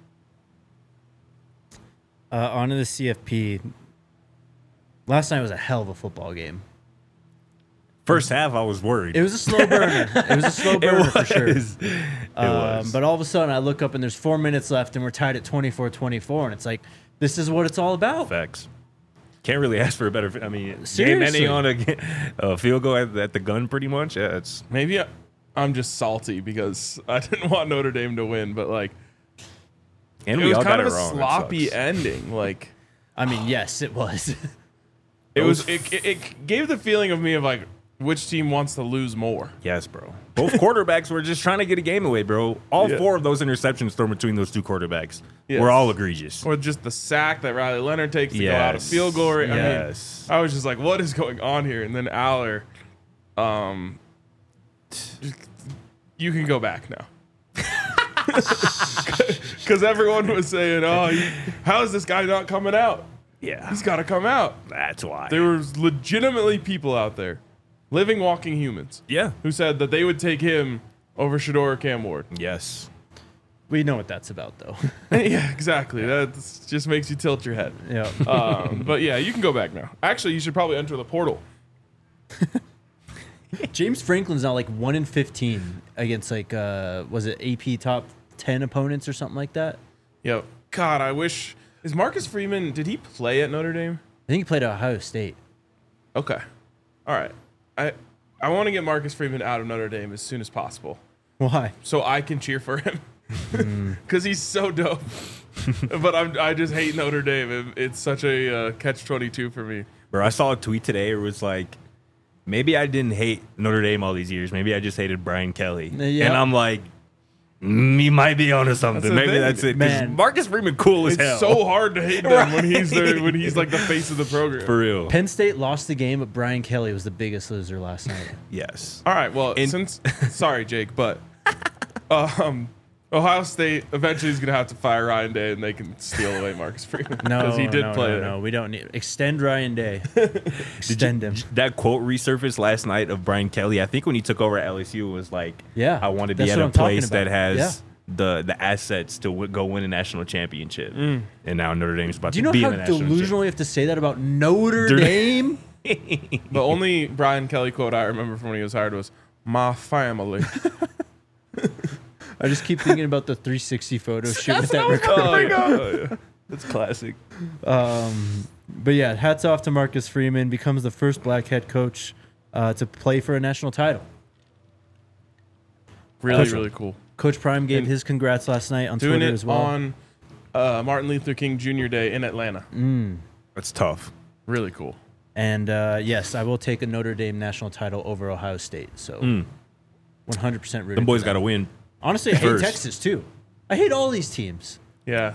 Uh, on to the C F P. Last night was a hell of a football game. First half, I was worried. It was a slow burner. It was a slow burner for sure. It Um, was. but all of a sudden, I look up and there's four minutes left, and we're tied at twenty-four twenty-four, and it's like, this is what it's all about. Facts. Can't really ask for a better. I mean, Seriously. game ending on a, a field goal at, at the gun, pretty much. Yeah, it's Maybe I, I'm just salty because I didn't want Notre Dame to win, but like and it we was all kind got of it a wrong. It sloppy sucks. ending. Like I mean, yes, it was. it was, it, it, it gave the feeling of me of like which team wants to lose more. Yes, bro. Both quarterbacks were just trying to get a game away, bro. All Yeah. four of those interceptions thrown between those two quarterbacks Yes. were all egregious. Or just the sack that Riley Leonard takes to go out of Yes. field goal. I Yes. mean, I was just like, what is going on here? And then Aller, um, you can go back now. Because everyone was saying, oh, he, how is this guy not coming out? Yeah, He's got to come out. that's why. There was legitimately people out there, living, walking humans, yeah. who said that they would take him over Shador or Cam Ward. Yes. We know what that's about, though. Yeah, exactly. That just makes you tilt your head. Yeah. Um, but yeah, you can go back now. Actually, you should probably enter the portal. James Franklin's now like one in fifteen against like uh was it A P top ten opponents or something like that? Yo, God, I wish. Is Marcus Freeman? Did he play at Notre Dame? I think he played at Ohio State. Okay, all right. I I want to get Marcus Freeman out of Notre Dame as soon as possible, Why? so I can cheer for him because he's so dope. But I'm I just hate Notre Dame. It, it's such a uh, catch twenty-two for me. Bro, I saw a tweet today. It was like, maybe I didn't hate Notre Dame all these years. Maybe I just hated Brian Kelly. Yeah. And I'm like, mm, he might be onto something. That's the Maybe thing. that's it. 'Cause Man. Marcus Freeman cool as It's hell. so hard to hate them when he's there, Right. when he's like the face of the program. For real. Penn State lost the game, but Brian Kelly was the biggest loser last night. Yes. All right, well, And- since sorry, Jake, but um, Ohio State eventually is going to have to fire Ryan Day, and they can steal away Marcus Freeman No, because he did no, play no, there. no, we don't need extend Ryan Day. Extend him. That quote resurfaced last night of Brian Kelly. I think when he took over at L S U, was like, Yeah, I want to be that's at what a I'm talking place that about. has Yeah. the the assets to w- go win a national championship. And now Notre Dame's about Do you to know be how in the national delusional you have to say that about Notre Dude. Dame? The only Brian Kelly quote I remember from when he was hired was "My family." I just keep thinking about the three sixty photo shoot with that what I was record. Oh, yeah. Oh, yeah. That's classic. Um, but yeah, hats off to Marcus Freeman. Becomes the first black head coach uh, to play for a national title. Really, Coach- really cool. Coach Prime gave And his congrats last night on Doing Twitter it as well. on uh, Martin Luther King Junior Day in Atlanta. That's tough. Really cool. And uh, yes, I will take a Notre Dame national title over Ohio State. So one hundred percent rooting. Them boys for got to them. win. Honestly, I hate first. Texas too. I hate all these teams. Yeah.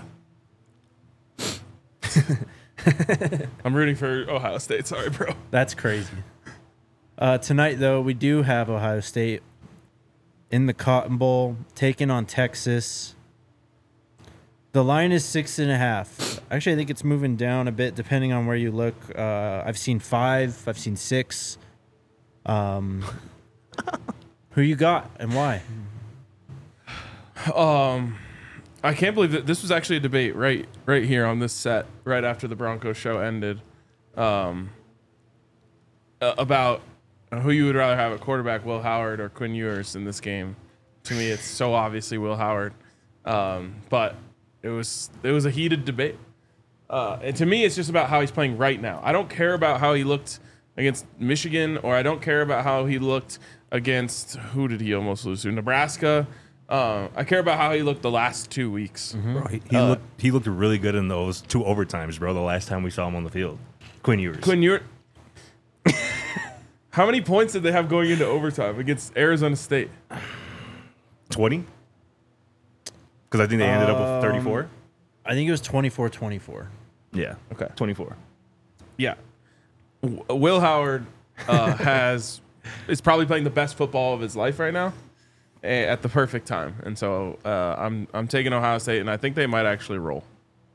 I'm rooting for Ohio State. Sorry, bro. That's crazy. Uh, tonight, though, we do have Ohio State in the Cotton Bowl taking on Texas. The line is six and a half. Actually, I think it's moving down a bit depending on where you look. Uh, I've seen five. I've seen six. Um, who you got and why? Um, I can't believe that this was actually a debate right, right here on this set, right after the Broncos show ended, um, uh, about who you would rather have at quarterback, Will Howard or Quinn Ewers in this game. To me, it's so obviously Will Howard, um, but it was it was a heated debate. Uh, and to me, it's just about how he's playing right now. I don't care about how he looked against Michigan, or I don't care about how he looked against, who did he almost lose to? Nebraska. Uh, I care about how he looked the last two weeks. Bro, he he Uh, looked he looked really good in those two overtimes, bro. The last time we saw him on the field, Quinn Ewers. Quinn Ewers. How many points did they have going into overtime against Arizona State? twenty? Because I think they ended up with thirty-four. I think it was twenty-four twenty-four. Yeah. Okay. twenty-four. Yeah. W- Will Howard uh, has is probably playing the best football of his life right now eh, at the perfect time. And so uh, I'm I'm taking Ohio State, and I think they might actually roll.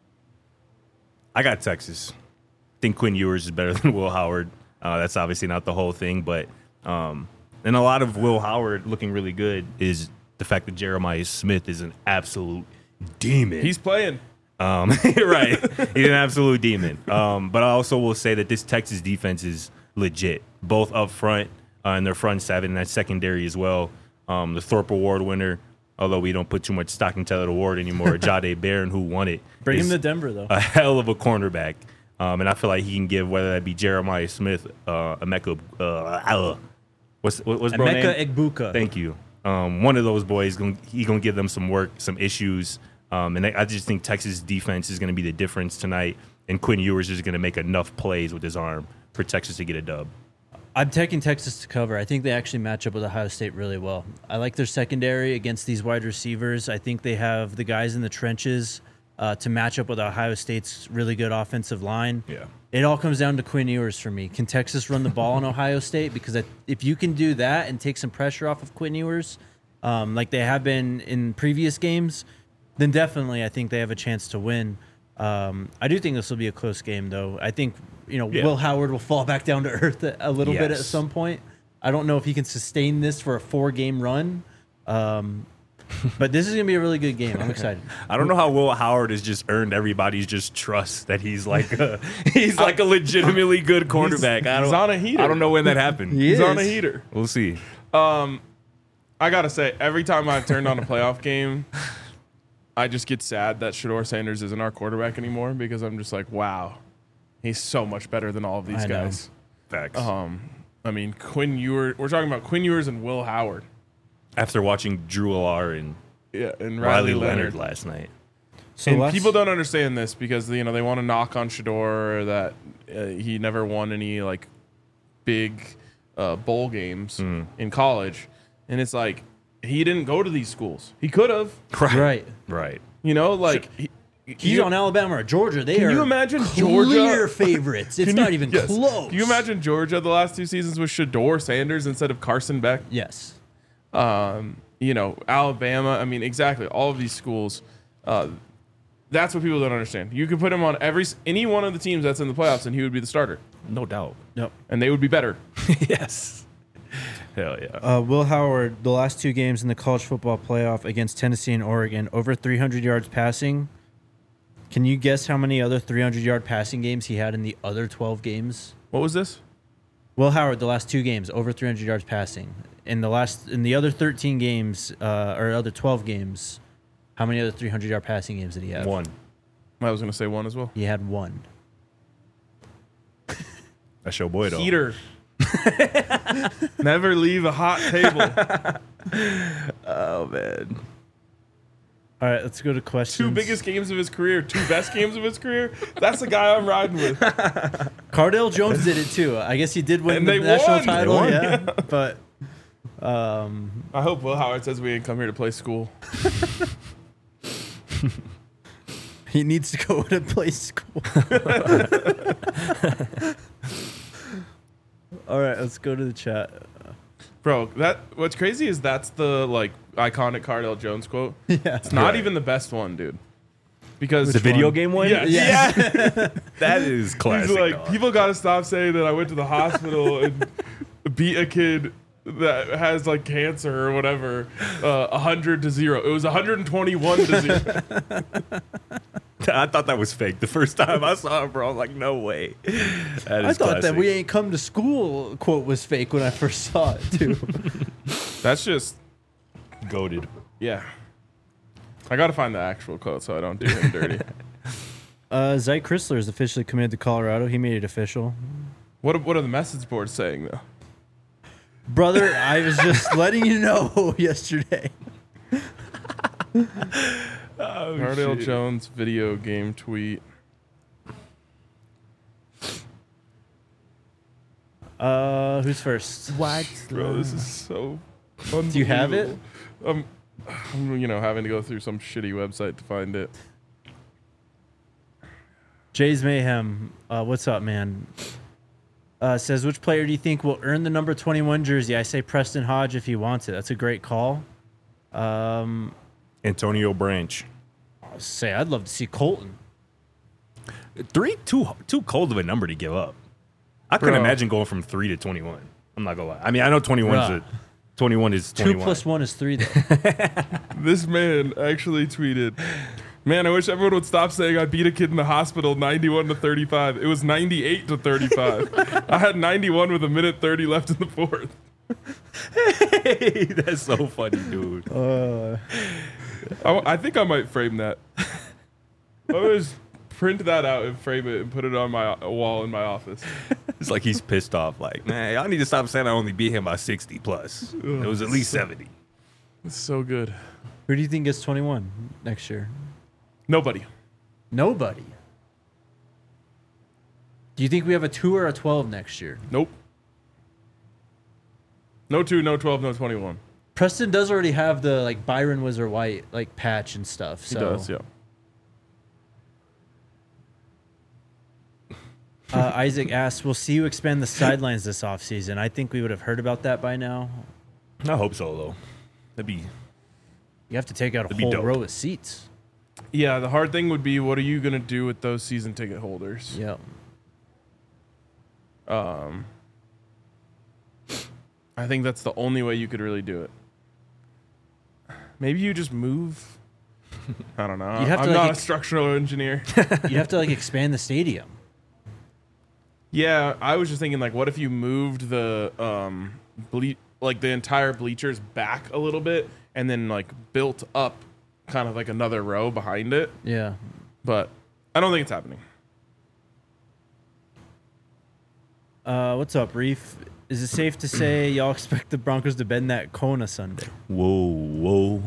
I got Texas. I think Quinn Ewers is better than Will Howard. Uh, that's obviously not the whole thing, but um, and a lot of Will Howard looking really good is the fact that Jeremiah Smith is an absolute demon. He's playing. Um, right. He's an absolute demon. Um, but I also will say that this Texas defense is legit, both up front uh, and their front seven, and that secondary as well. Um, the Thorpe Award winner, although we don't put too much stock in Taylor Award anymore, Jahdae Barron, who won it. Bring him to Denver, though. A hell of a cornerback. Um, and I feel like he can give, whether that be Jeremiah Smith, uh, Emeka, uh, uh, what's, what, what's bro Emeka name? Egbuka. Thank you. Um, one of those boys, gonna, he going to give them some work, some issues. Um, and I, I just think Texas defense is going to be the difference tonight. And Quinn Ewers is going to make enough plays with his arm for Texas to get a dub. I'm taking Texas to cover. I think they actually match up with Ohio State really well. I like their secondary against these wide receivers. I think they have the guys in the trenches uh, to match up with Ohio State's really good offensive line. Yeah. It all comes down to Quinn Ewers for me. Can Texas run the ball on Ohio State? Because I, if you can do that and take some pressure off of Quinn Ewers, um, like they have been in previous games, then definitely I think they have a chance to win. Um, I do think this will be a close game, though. I think you know Yeah. Will Howard will fall back down to earth a, a little bit at Yes. some point. I don't know if he can sustain this for a four-game run, um, but this is going to be a really good game. I'm excited. I don't know how Will Howard has just earned everybody's just trust that he's like a, he's like a legitimately good cornerback. I don't, he's on a heater. I don't know when that happened. He He's is. on a heater. We'll see. I gotta say, every time I've turned on a playoff game, I just get sad that Shedeur Sanders isn't our quarterback anymore because I'm just like, wow, he's so much better than all of these I know. guys. Facts. Um, I mean, Quinn Ewers. We're talking about Quinn Ewers and Will Howard. After watching Drew Alar and Yeah, and Riley, Riley, Leonard. Leonard. last night. So And let's- people don't understand this because you know they want to knock on Shedeur that uh, he never won any like big uh, bowl games in college, and it's like he didn't go to these schools. He could have, right. Right. you know, like he, He's you- on Alabama or Georgia. They Can are you imagine clear Georgia- favorites. It's Can not you- even yes. close. Can you imagine Georgia the last two seasons with Shedeur Sanders instead of Carson Beck? Yes. Um, you know, Alabama. I mean, exactly. All of these schools. Uh, that's what people don't understand. You could put him on every any one of the teams that's in the playoffs, and he would be the starter, No doubt. Nope. and they would be better. Yes. Hell yeah. Uh, Will Howard, the last two games in the college football playoff against Tennessee and Oregon, over three hundred yards passing. Can you guess how many other three hundred yard passing games he had in the other twelve games? What was this? Will Howard, the last two games, over three hundred yards passing. In the last, in the other thirteen games, uh, or other twelve games, how many other three hundred yard passing games did he have? One. I was going to say one as well. He had one. That's your boy, though. Heater. Never leave a hot table. Oh, man. All right, let's go to questions. Two biggest games of his career, two best games of his career. That's the guy I'm riding with. Cardale Jones did it too. I guess he did win And the they national won. title, They won. yeah. But um, I hope Will Howard says we didn't come here to play school. he needs to go to play school. All right, let's go to the chat. Bro, that what's crazy is that's the like iconic Cardale Jones quote. Yeah. It's not Right. even the best one, dude. Because The video game one? Yes. Yeah. That is classic. He's like, dog. people got to stop saying that I went to the hospital and beat a kid that has like cancer or whatever, uh, one hundred to zero. It was one hundred twenty-one to zero. I thought that was fake the first time I saw it, bro. I was like, no way. That I is thought that classic. we ain't come to school quote was fake when I first saw it too. That's just, goated. yeah. I got to find the actual quote so I don't do him dirty. uh, Zy Chrysler is officially committed to Colorado. He made it official. What are, what are the message boards saying, though? Brother, I was just letting you know yesterday. Cardale shit. Jones video game tweet. Uh, who's first? What? Bro, this is so Do you have it? Um, I'm, you know, having to go through some shitty website to find it. Jay's Mayhem. Uh, what's up, man? Uh, says, which player do you think will earn the number twenty-one jersey? I say Preston Hodge if he wants it. That's a great call. Um, Antonio Branch. I'll say I'd love to see Colton. Three, too too cold of a number to give up. I couldn't Bro. imagine going from three to twenty-one. I'm not gonna lie. I mean, I know twenty-one is Bruh. a, twenty-one is Two twenty-one. plus one is three, though. This man actually tweeted, man, I wish everyone would stop saying I beat a kid in the hospital ninety-one to thirty-five. It was ninety-eight to thirty-five. I had ninety-one with a minute thirty left in the fourth. Hey, that's so funny, dude. Uh, I, I think I might frame that. I always print that out and frame it and put it on my wall in my office. It's like he's pissed off. Like, man, y'all need to stop saying I only beat him by sixty plus. It was at least seventy. It's so good. who do you think gets twenty-one next year? Nobody. Nobody. Do you think we have a two or a twelve next year? Nope. No two, no twelve, no twenty-one. Preston does already have the like Byron Wizard White like patch and stuff. He So does, yeah. uh, Isaac asks, "We'll see you expand the sidelines this offseason." I think we would have heard about that by now. I hope so, though. That'd be You have to take out a That'd be whole dope. row of seats. Yeah, the hard thing would be, what are you going to do with those season ticket holders? Yeah. Um, I think that's the only way you could really do it. Maybe you just move. I don't know. You'd have I'm to, like, not ex- a structural engineer. You have to like expand the stadium. Yeah, I was just thinking, like, what if you moved the um, ble- like the entire bleachers back a little bit, and then like built up kind of like another row behind it? Yeah. But I don't think it's happening. Uh, what's up, Reef? Is it safe to say y'all expect the Broncos to bend that Kona Sunday? whoa, whoa.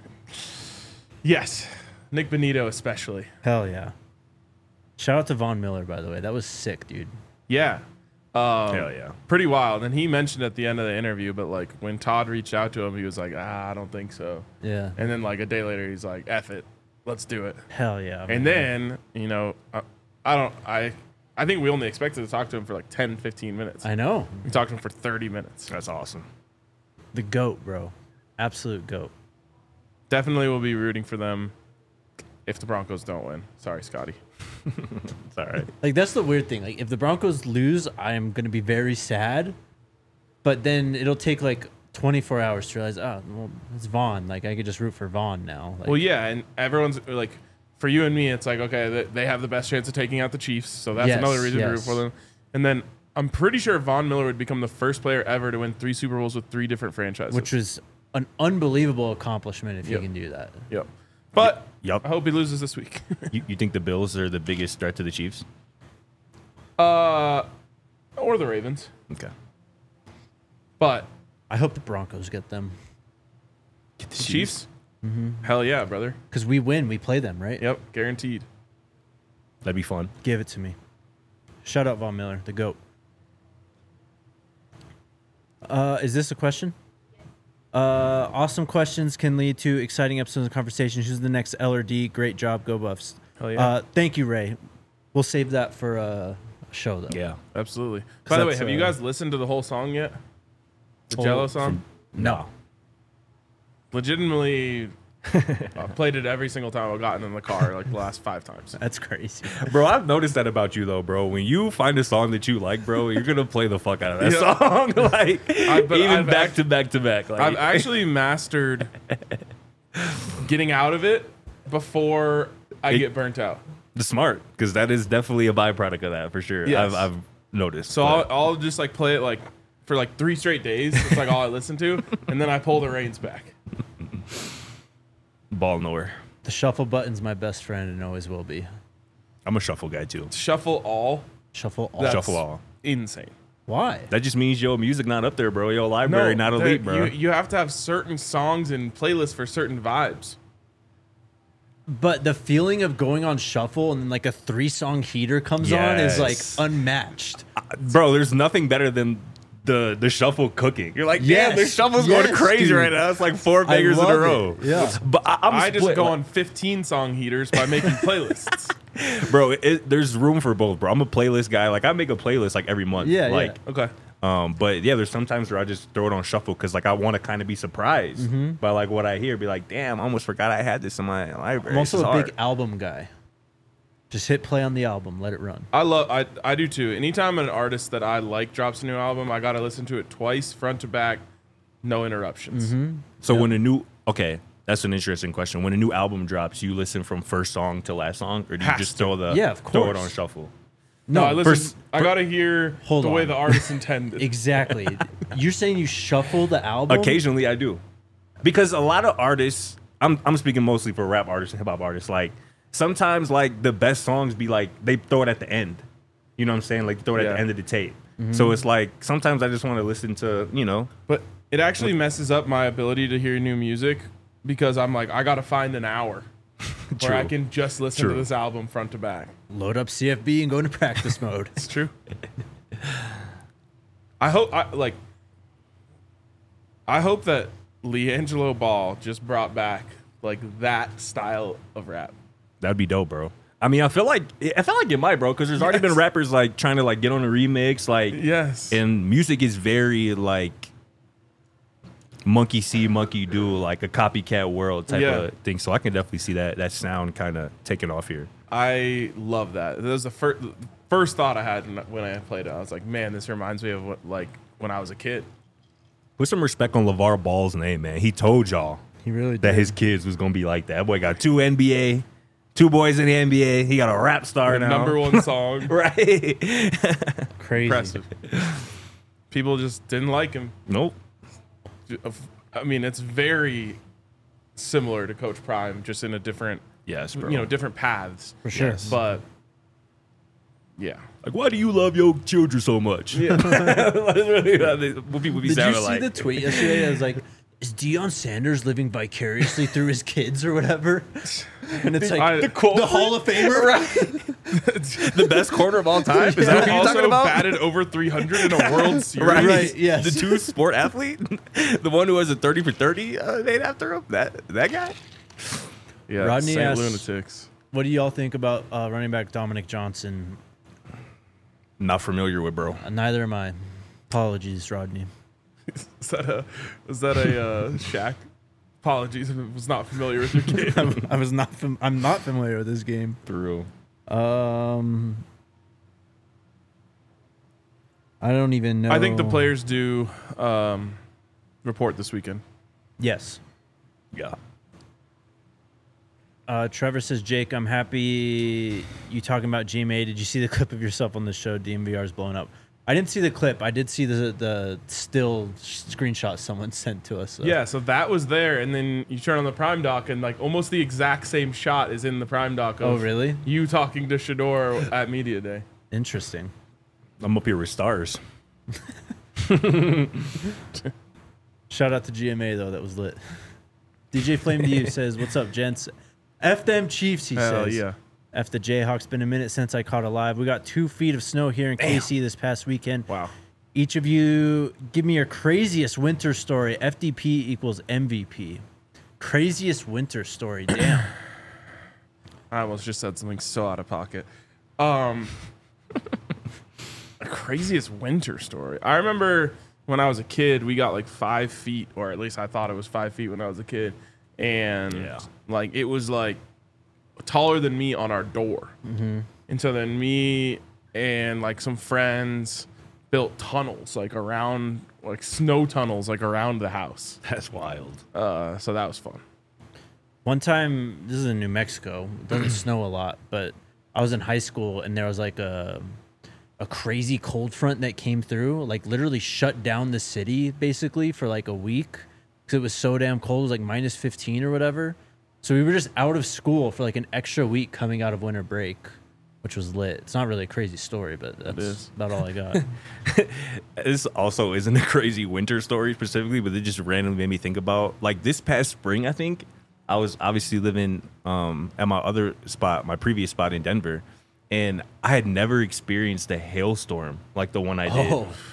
Yes, Nick Benito especially. Hell yeah. Shout out to Von Miller, by the way. That was sick, dude. Yeah. Um, Hell yeah. Pretty wild. And he mentioned at the end of the interview, but like when Todd reached out to him, he was like, ah, I don't think so. Yeah. And then like a day later, he's like, F it. Let's do it. Hell yeah. And man. then, you know, I, I don't, I, I think we only expected to talk to him for like ten, fifteen minutes. I know. We talked to him for thirty minutes. That's awesome. The GOAT, bro. Absolute GOAT. Definitely will be rooting for them if the Broncos don't win. Sorry, Scotty. It's all right. Like, that's the weird thing. Like, if the Broncos lose, I am going to be very sad. But then it'll take like twenty-four hours to realize, oh, well, it's Vaughn. Like, I could just root for Vaughn now. Like, Well, yeah, and everyone's like, for you and me, it's like, okay, they- they have the best chance of taking out the Chiefs, so that's Yes, another reason to root yes. for them. And then I'm pretty sure Von Miller would become the first player ever to win three Super Bowls with three different franchises. which was an unbelievable accomplishment if Yep. you can do that. Yep. But Yup. I hope he loses this week. You, you think the Bills are the biggest threat to the Chiefs? uh, or the Ravens. Okay. But I hope the Broncos get them. Get the the Chiefs, hell yeah, brother. Because we win, we play them, right? Yep, guaranteed. That'd be fun. Give it to me. Shout out Von Miller, the GOAT. Uh, is this a question? Uh, awesome questions can lead to exciting episodes of conversations. Who's the next L or D? Great job, go Buffs. Hell yeah. Uh, thank you, Ray. We'll save that for a show, though. Yeah. Absolutely. By the way, that's, have you uh, guys listened to the whole song yet? The Oh, Jello song? No. Legitimately, I played it every single time I've gotten in the car, like the last five times. That's crazy. Bro, I've noticed that about you, though, bro. When you find a song that you like, bro, you're going to play the fuck out of that Yeah. song. like, I- but even I've back act- to back to back. Like, I've actually mastered getting out of it before I It- get burnt out. the smart, because that is definitely a byproduct of that, for sure. Yes. I've, I've noticed. So I'll, but- I'll just like play it like for like three straight days. It's like all I listen to, and then I pull the reins back. ball nowhere. The shuffle button's my best friend and always will be. I'm a shuffle guy, too. Shuffle all. Shuffle all. That's Shuffle all. Insane. Why? That just means your music not up there, bro. Your library not there- elite, bro. You, you have to have certain songs and playlists for certain vibes. But the feeling of going on shuffle and then like a three song heater comes on is like Yes. unmatched. Bro, there's nothing better than the the shuffle cooking. You're like, Yes, yeah, the shuffle's yes, going crazy dude. right now. It's like four I bangers in love a row. it. Yeah. But I, I'm I just split, go like- on fifteen song heaters by making playlists. bro. It, there's room for both, bro. I'm a playlist guy. Like I make a playlist like every month. Yeah, like, yeah. Okay. Um, but yeah, there's sometimes where I just throw it on shuffle because like I want to kind of be surprised Mm-hmm. by like what I hear. Be like, damn, I almost forgot I had this in my library. I'm also This is a hard. big album guy. Just hit play on the album, let it run. I love I I do too. Anytime an artist that I like drops a new album, I gotta listen to it twice, front to back, no interruptions. So when a new okay, that's an interesting question. When a new album drops, you listen from first song to last song, or do you Has just to. throw the Yeah, of throw it course. on shuffle? No, I listen. first- I gotta hear Hold the way on. the artist intended. Exactly. You're saying you shuffle the album? Occasionally, I do, because a lot of artists. I'm I'm speaking mostly for rap artists and hip hop artists. Like sometimes, like the best songs be like they throw it at the end. You know what I'm saying? Like throw it at Yeah. the end of the tape. So it's like sometimes I just want to listen to you know. But it actually messes up my ability to hear new music because I'm like, I gotta find an hour where I True. can just listen True. to this album front to back. Load up C F B and go into practice mode. It's true. I hope I like I hope that LiAngelo Ball just brought back like that style of rap. That'd be dope, bro. I mean, I feel like I feel like it might, bro, because there's already been Yes. rappers like trying to like get on a remix, like Yes. and music is very like monkey see, monkey do, like a copycat world type Yeah. of thing. So I can definitely see that that sound kind of taking off here. I love that. That was the first first thought I had when I played it. I was like, man, this reminds me of what like when I was a kid. Put some respect on LeVar Ball's name, man. He told y'all He really that did. his kids was gonna be like that. That boy got two N B A, two boys in the N B A. He got a rap star now. Number one song. right? Crazy. Impressive. People just didn't like him. Nope. I mean, it's very similar to Coach Prime, just in a different, Yes, bro. you know, different paths. For sure. Yes. But yeah, Like, why do you love your children so much? Yeah. That's really how they- what people be Did you sounding see like. the tweet yesterday? I was like, is Deion Sanders living vicariously through his kids or whatever? And it's like I- the, the quote- Hall of Famer, right? the best corner of all time? Is that what you're also talking about? batted over three hundred in a World Series. Right. Right, yes. The two sport athlete, the one who has a thirty for thirty uh, named after him. That that guy. Yeah, Rodney Saint asks- Lunatics. What do y'all think about uh, running back Dominic Johnson? Not familiar with, bro. Uh, neither am I. Apologies, Rodney. Is that a was that a uh, Shaq? Apologies if it was not familiar with your game. I was not. Fam- I'm not familiar with this game. Through. Um, I don't even know. I think the players do um, report this weekend. Yes. Yeah. Uh, Trevor says, Jake, I'm happy you talking about G M A. Did you see the clip of yourself on the show? D M V R is blowing up. I didn't see the clip. I did see the the still screenshot someone sent to us. So. Yeah, so that was there, and then you turn on the Prime Doc, and like almost the exact same shot is in the Prime Doc. Of Oh, really? You talking to Shador at media day. Interesting. I'm up here with stars. Shout out to G M A, though. That was lit. D J Flame to you says, what's up, gents? F them Chiefs, he Hell says. yeah. F the Jayhawks. Been a minute since I caught a live. We got two feet of snow here in K C this past weekend. Wow. Each of you give me your craziest winter story. F D P equals M V P. Craziest winter story. Damn. I almost just said something so out of pocket. Um, the craziest winter story. I remember when I was a kid, we got like five feet, or at least I thought it was five feet when I was a kid, and Yeah. like it was like taller than me on our door. Mm-hmm. And so then me and like some friends built tunnels like around, like snow tunnels like around the house. That's wild. Uh, so that was fun. One time, this is in New Mexico. It doesn't snow a lot, but I was in high school and there was like a a crazy cold front that came through, like literally shut down the city basically for like a week because it was so damn cold. It was like minus fifteen or whatever. So we were just out of school for like an extra week coming out of winter break, which was lit. It's not really a crazy story, but that's is. about all I got. This also isn't a crazy winter story specifically, but it just randomly made me think about like this past spring. I think I was obviously living um, at my other spot, my previous spot in Denver, and I had never experienced a hailstorm like the one I did. Oh,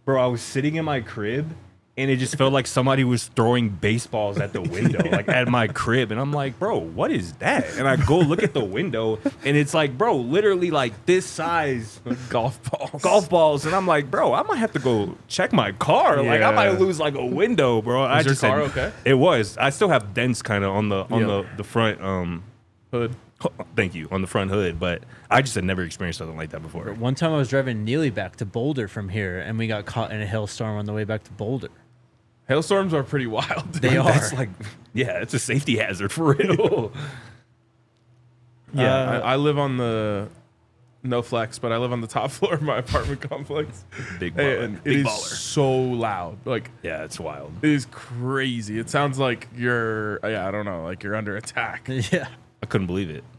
Bro, I was sitting in my crib, and it just felt like somebody was throwing baseballs at the window, like at my crib. And I'm like, bro, what is that? And I go look at the window, and it's like, bro, literally like this size Golf balls. golf balls. And I'm like, bro, I might have to go check my car. Like, I Yeah. might lose like a window, bro. I Was your just car said- okay? It was. I still have dents kind of on the on Yeah. the, the front. Um, Hood. thank you, on the front hood. But I just had never experienced something like that before. One time I was driving Neely back to Boulder from here, and we got caught in a hailstorm on the way back to Boulder. Hailstorms are pretty wild. They are. That's like, yeah, it's a safety hazard for real. Yeah, Uh, I, I live on the no flex, but I live on the top floor of my apartment complex. Big baller. And it Big is baller. so loud. Like Yeah, it's wild. it is crazy. It sounds like you're yeah, I don't know, like you're under attack. Yeah. I couldn't believe it.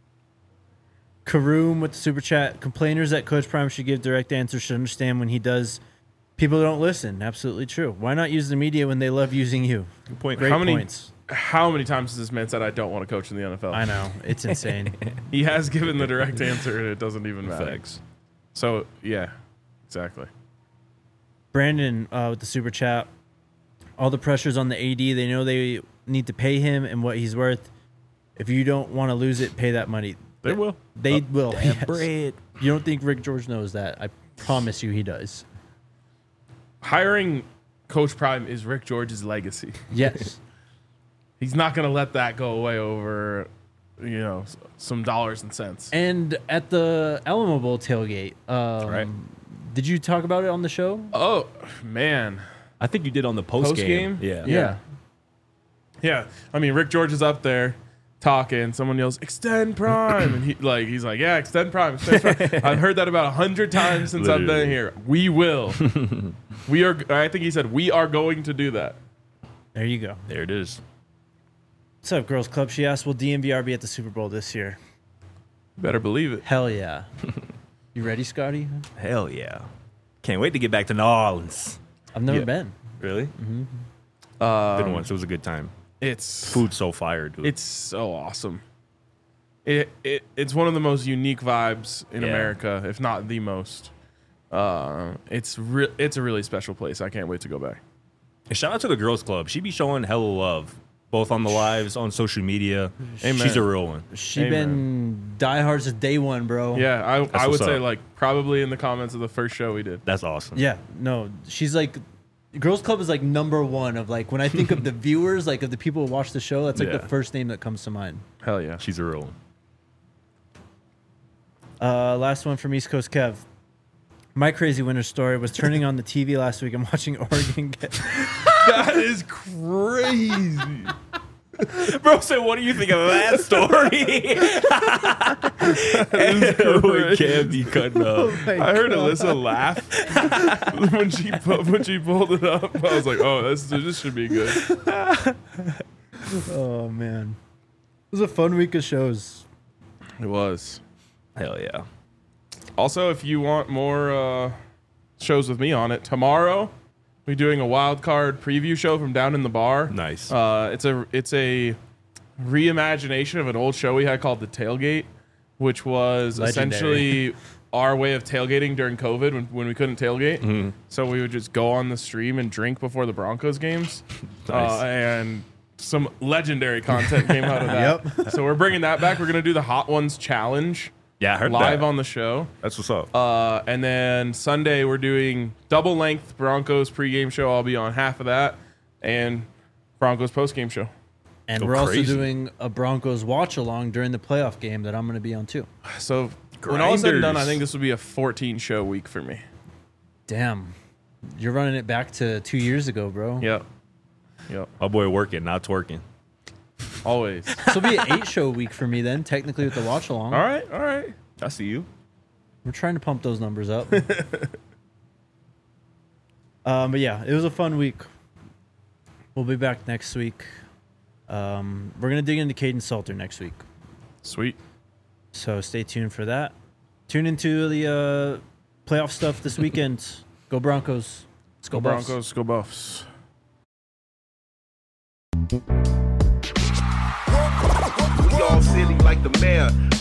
Karoom with the super chat. Complainers that Coach Prime should give direct answers should understand when he does. People don't listen. Absolutely true. Why not use the media when they love using you? Good point. Great How many points. how many times has this man said I don't want to coach in the N F L? I know. It's insane. He has given the direct answer and it doesn't even matter. Facts. So yeah, exactly. Brandon uh, with the super chat. All the pressure's on the A D. They know they need to pay him and what he's worth. If you don't want to lose it, pay that money. They will. They will. yes. bread. You don't think Rick George knows that? I promise you he does. Hiring Coach Prime is Rick George's legacy. Yes. He's not going to let that go away over, you know, s- some dollars and cents. And at the Alamo Bowl tailgate, um, Right. did you talk about it on the show? Oh, man. I think you did on the post, Post game? Yeah. Yeah. Yeah. I mean, Rick George is up there talking. Someone yells, "Extend Prime." And he like he's like, "Yeah, extend Prime, extend Prime." I've heard that about a hundred times since I've been Literally. here. We will. We are I think he said, "We are going to do that." There you go. There it is. What's up, Girls Club? She asked, will D M V R be at the Super Bowl this year? Better believe it. Hell yeah. You ready, Scotty? Hell yeah. Can't wait to get back to New Orleans. I've never Yeah. been. Really? Um, Been once. It was a good time. It's Food so fire, dude. It's so awesome. It, it it's one of the most unique vibes in Yeah. America, if not the most. Uh, it's re- it's a really special place. I can't wait to go back. And shout out to the girls club. She be showing hella love, both on the lives, on social media. Amen. She's a real one. She Amen. been diehards since day one, bro. Yeah, I I would what's say up. like probably in the comments of the first show we did. That's awesome. Yeah. No, she's like, Girls Club is like number one of like, when I think of the viewers, like of the people who watch the show, that's like Yeah. the first name that comes to mind. Hell yeah. She's a real one. Uh, last one from East Coast Kev. My crazy winter story was turning on the T V last week and watching Oregon get. That is crazy. Bro said, what do you think of that story? We can't be cutting up. I heard Alyssa laugh when she pu- when she pulled it up. I was like, oh, this this should be good. Oh, man. It was a fun week of shows. It was. Hell yeah. Also, if you want more uh, shows with me on it, tomorrow we're doing a wild card preview show from down in the bar. Nice. Uh, it's a it's a reimagination of an old show we had called The Tailgate, which was Legendary. essentially our way of tailgating during COVID when, when we couldn't tailgate. Mm-hmm. So we would just go on the stream and drink before the Broncos games. Nice. Uh, and some legendary content came out of that. Yep. So we're bringing that back. We're going to do the Hot Ones Challenge Yeah, I heard live that. on the show. That's what's up. Uh, and then Sunday we're doing double length Broncos pregame show. I'll be on half of that, and Broncos postgame show. And Go we're also crazy. doing a Broncos watch along during the playoff game that I'm going to be on too. So when all is said and done, I Grinders. think this will be a fourteen show week for me. Damn. You're running it back to two years ago, bro. Yep. Yep. My boy working, not twerking. Always. This will be an eight show week for me then, technically with the watch along. All right. All right. I see you. We're trying to pump those numbers up. um, but yeah, it was a fun week. We'll be back next week. Um, we're going to dig into Caden Salter next week. Sweet. So stay tuned for that. Tune into the uh, playoff stuff this weekend. Go Broncos. Let's go, Go Buffs. Broncos. Go Buffs. We all silly like the mayor.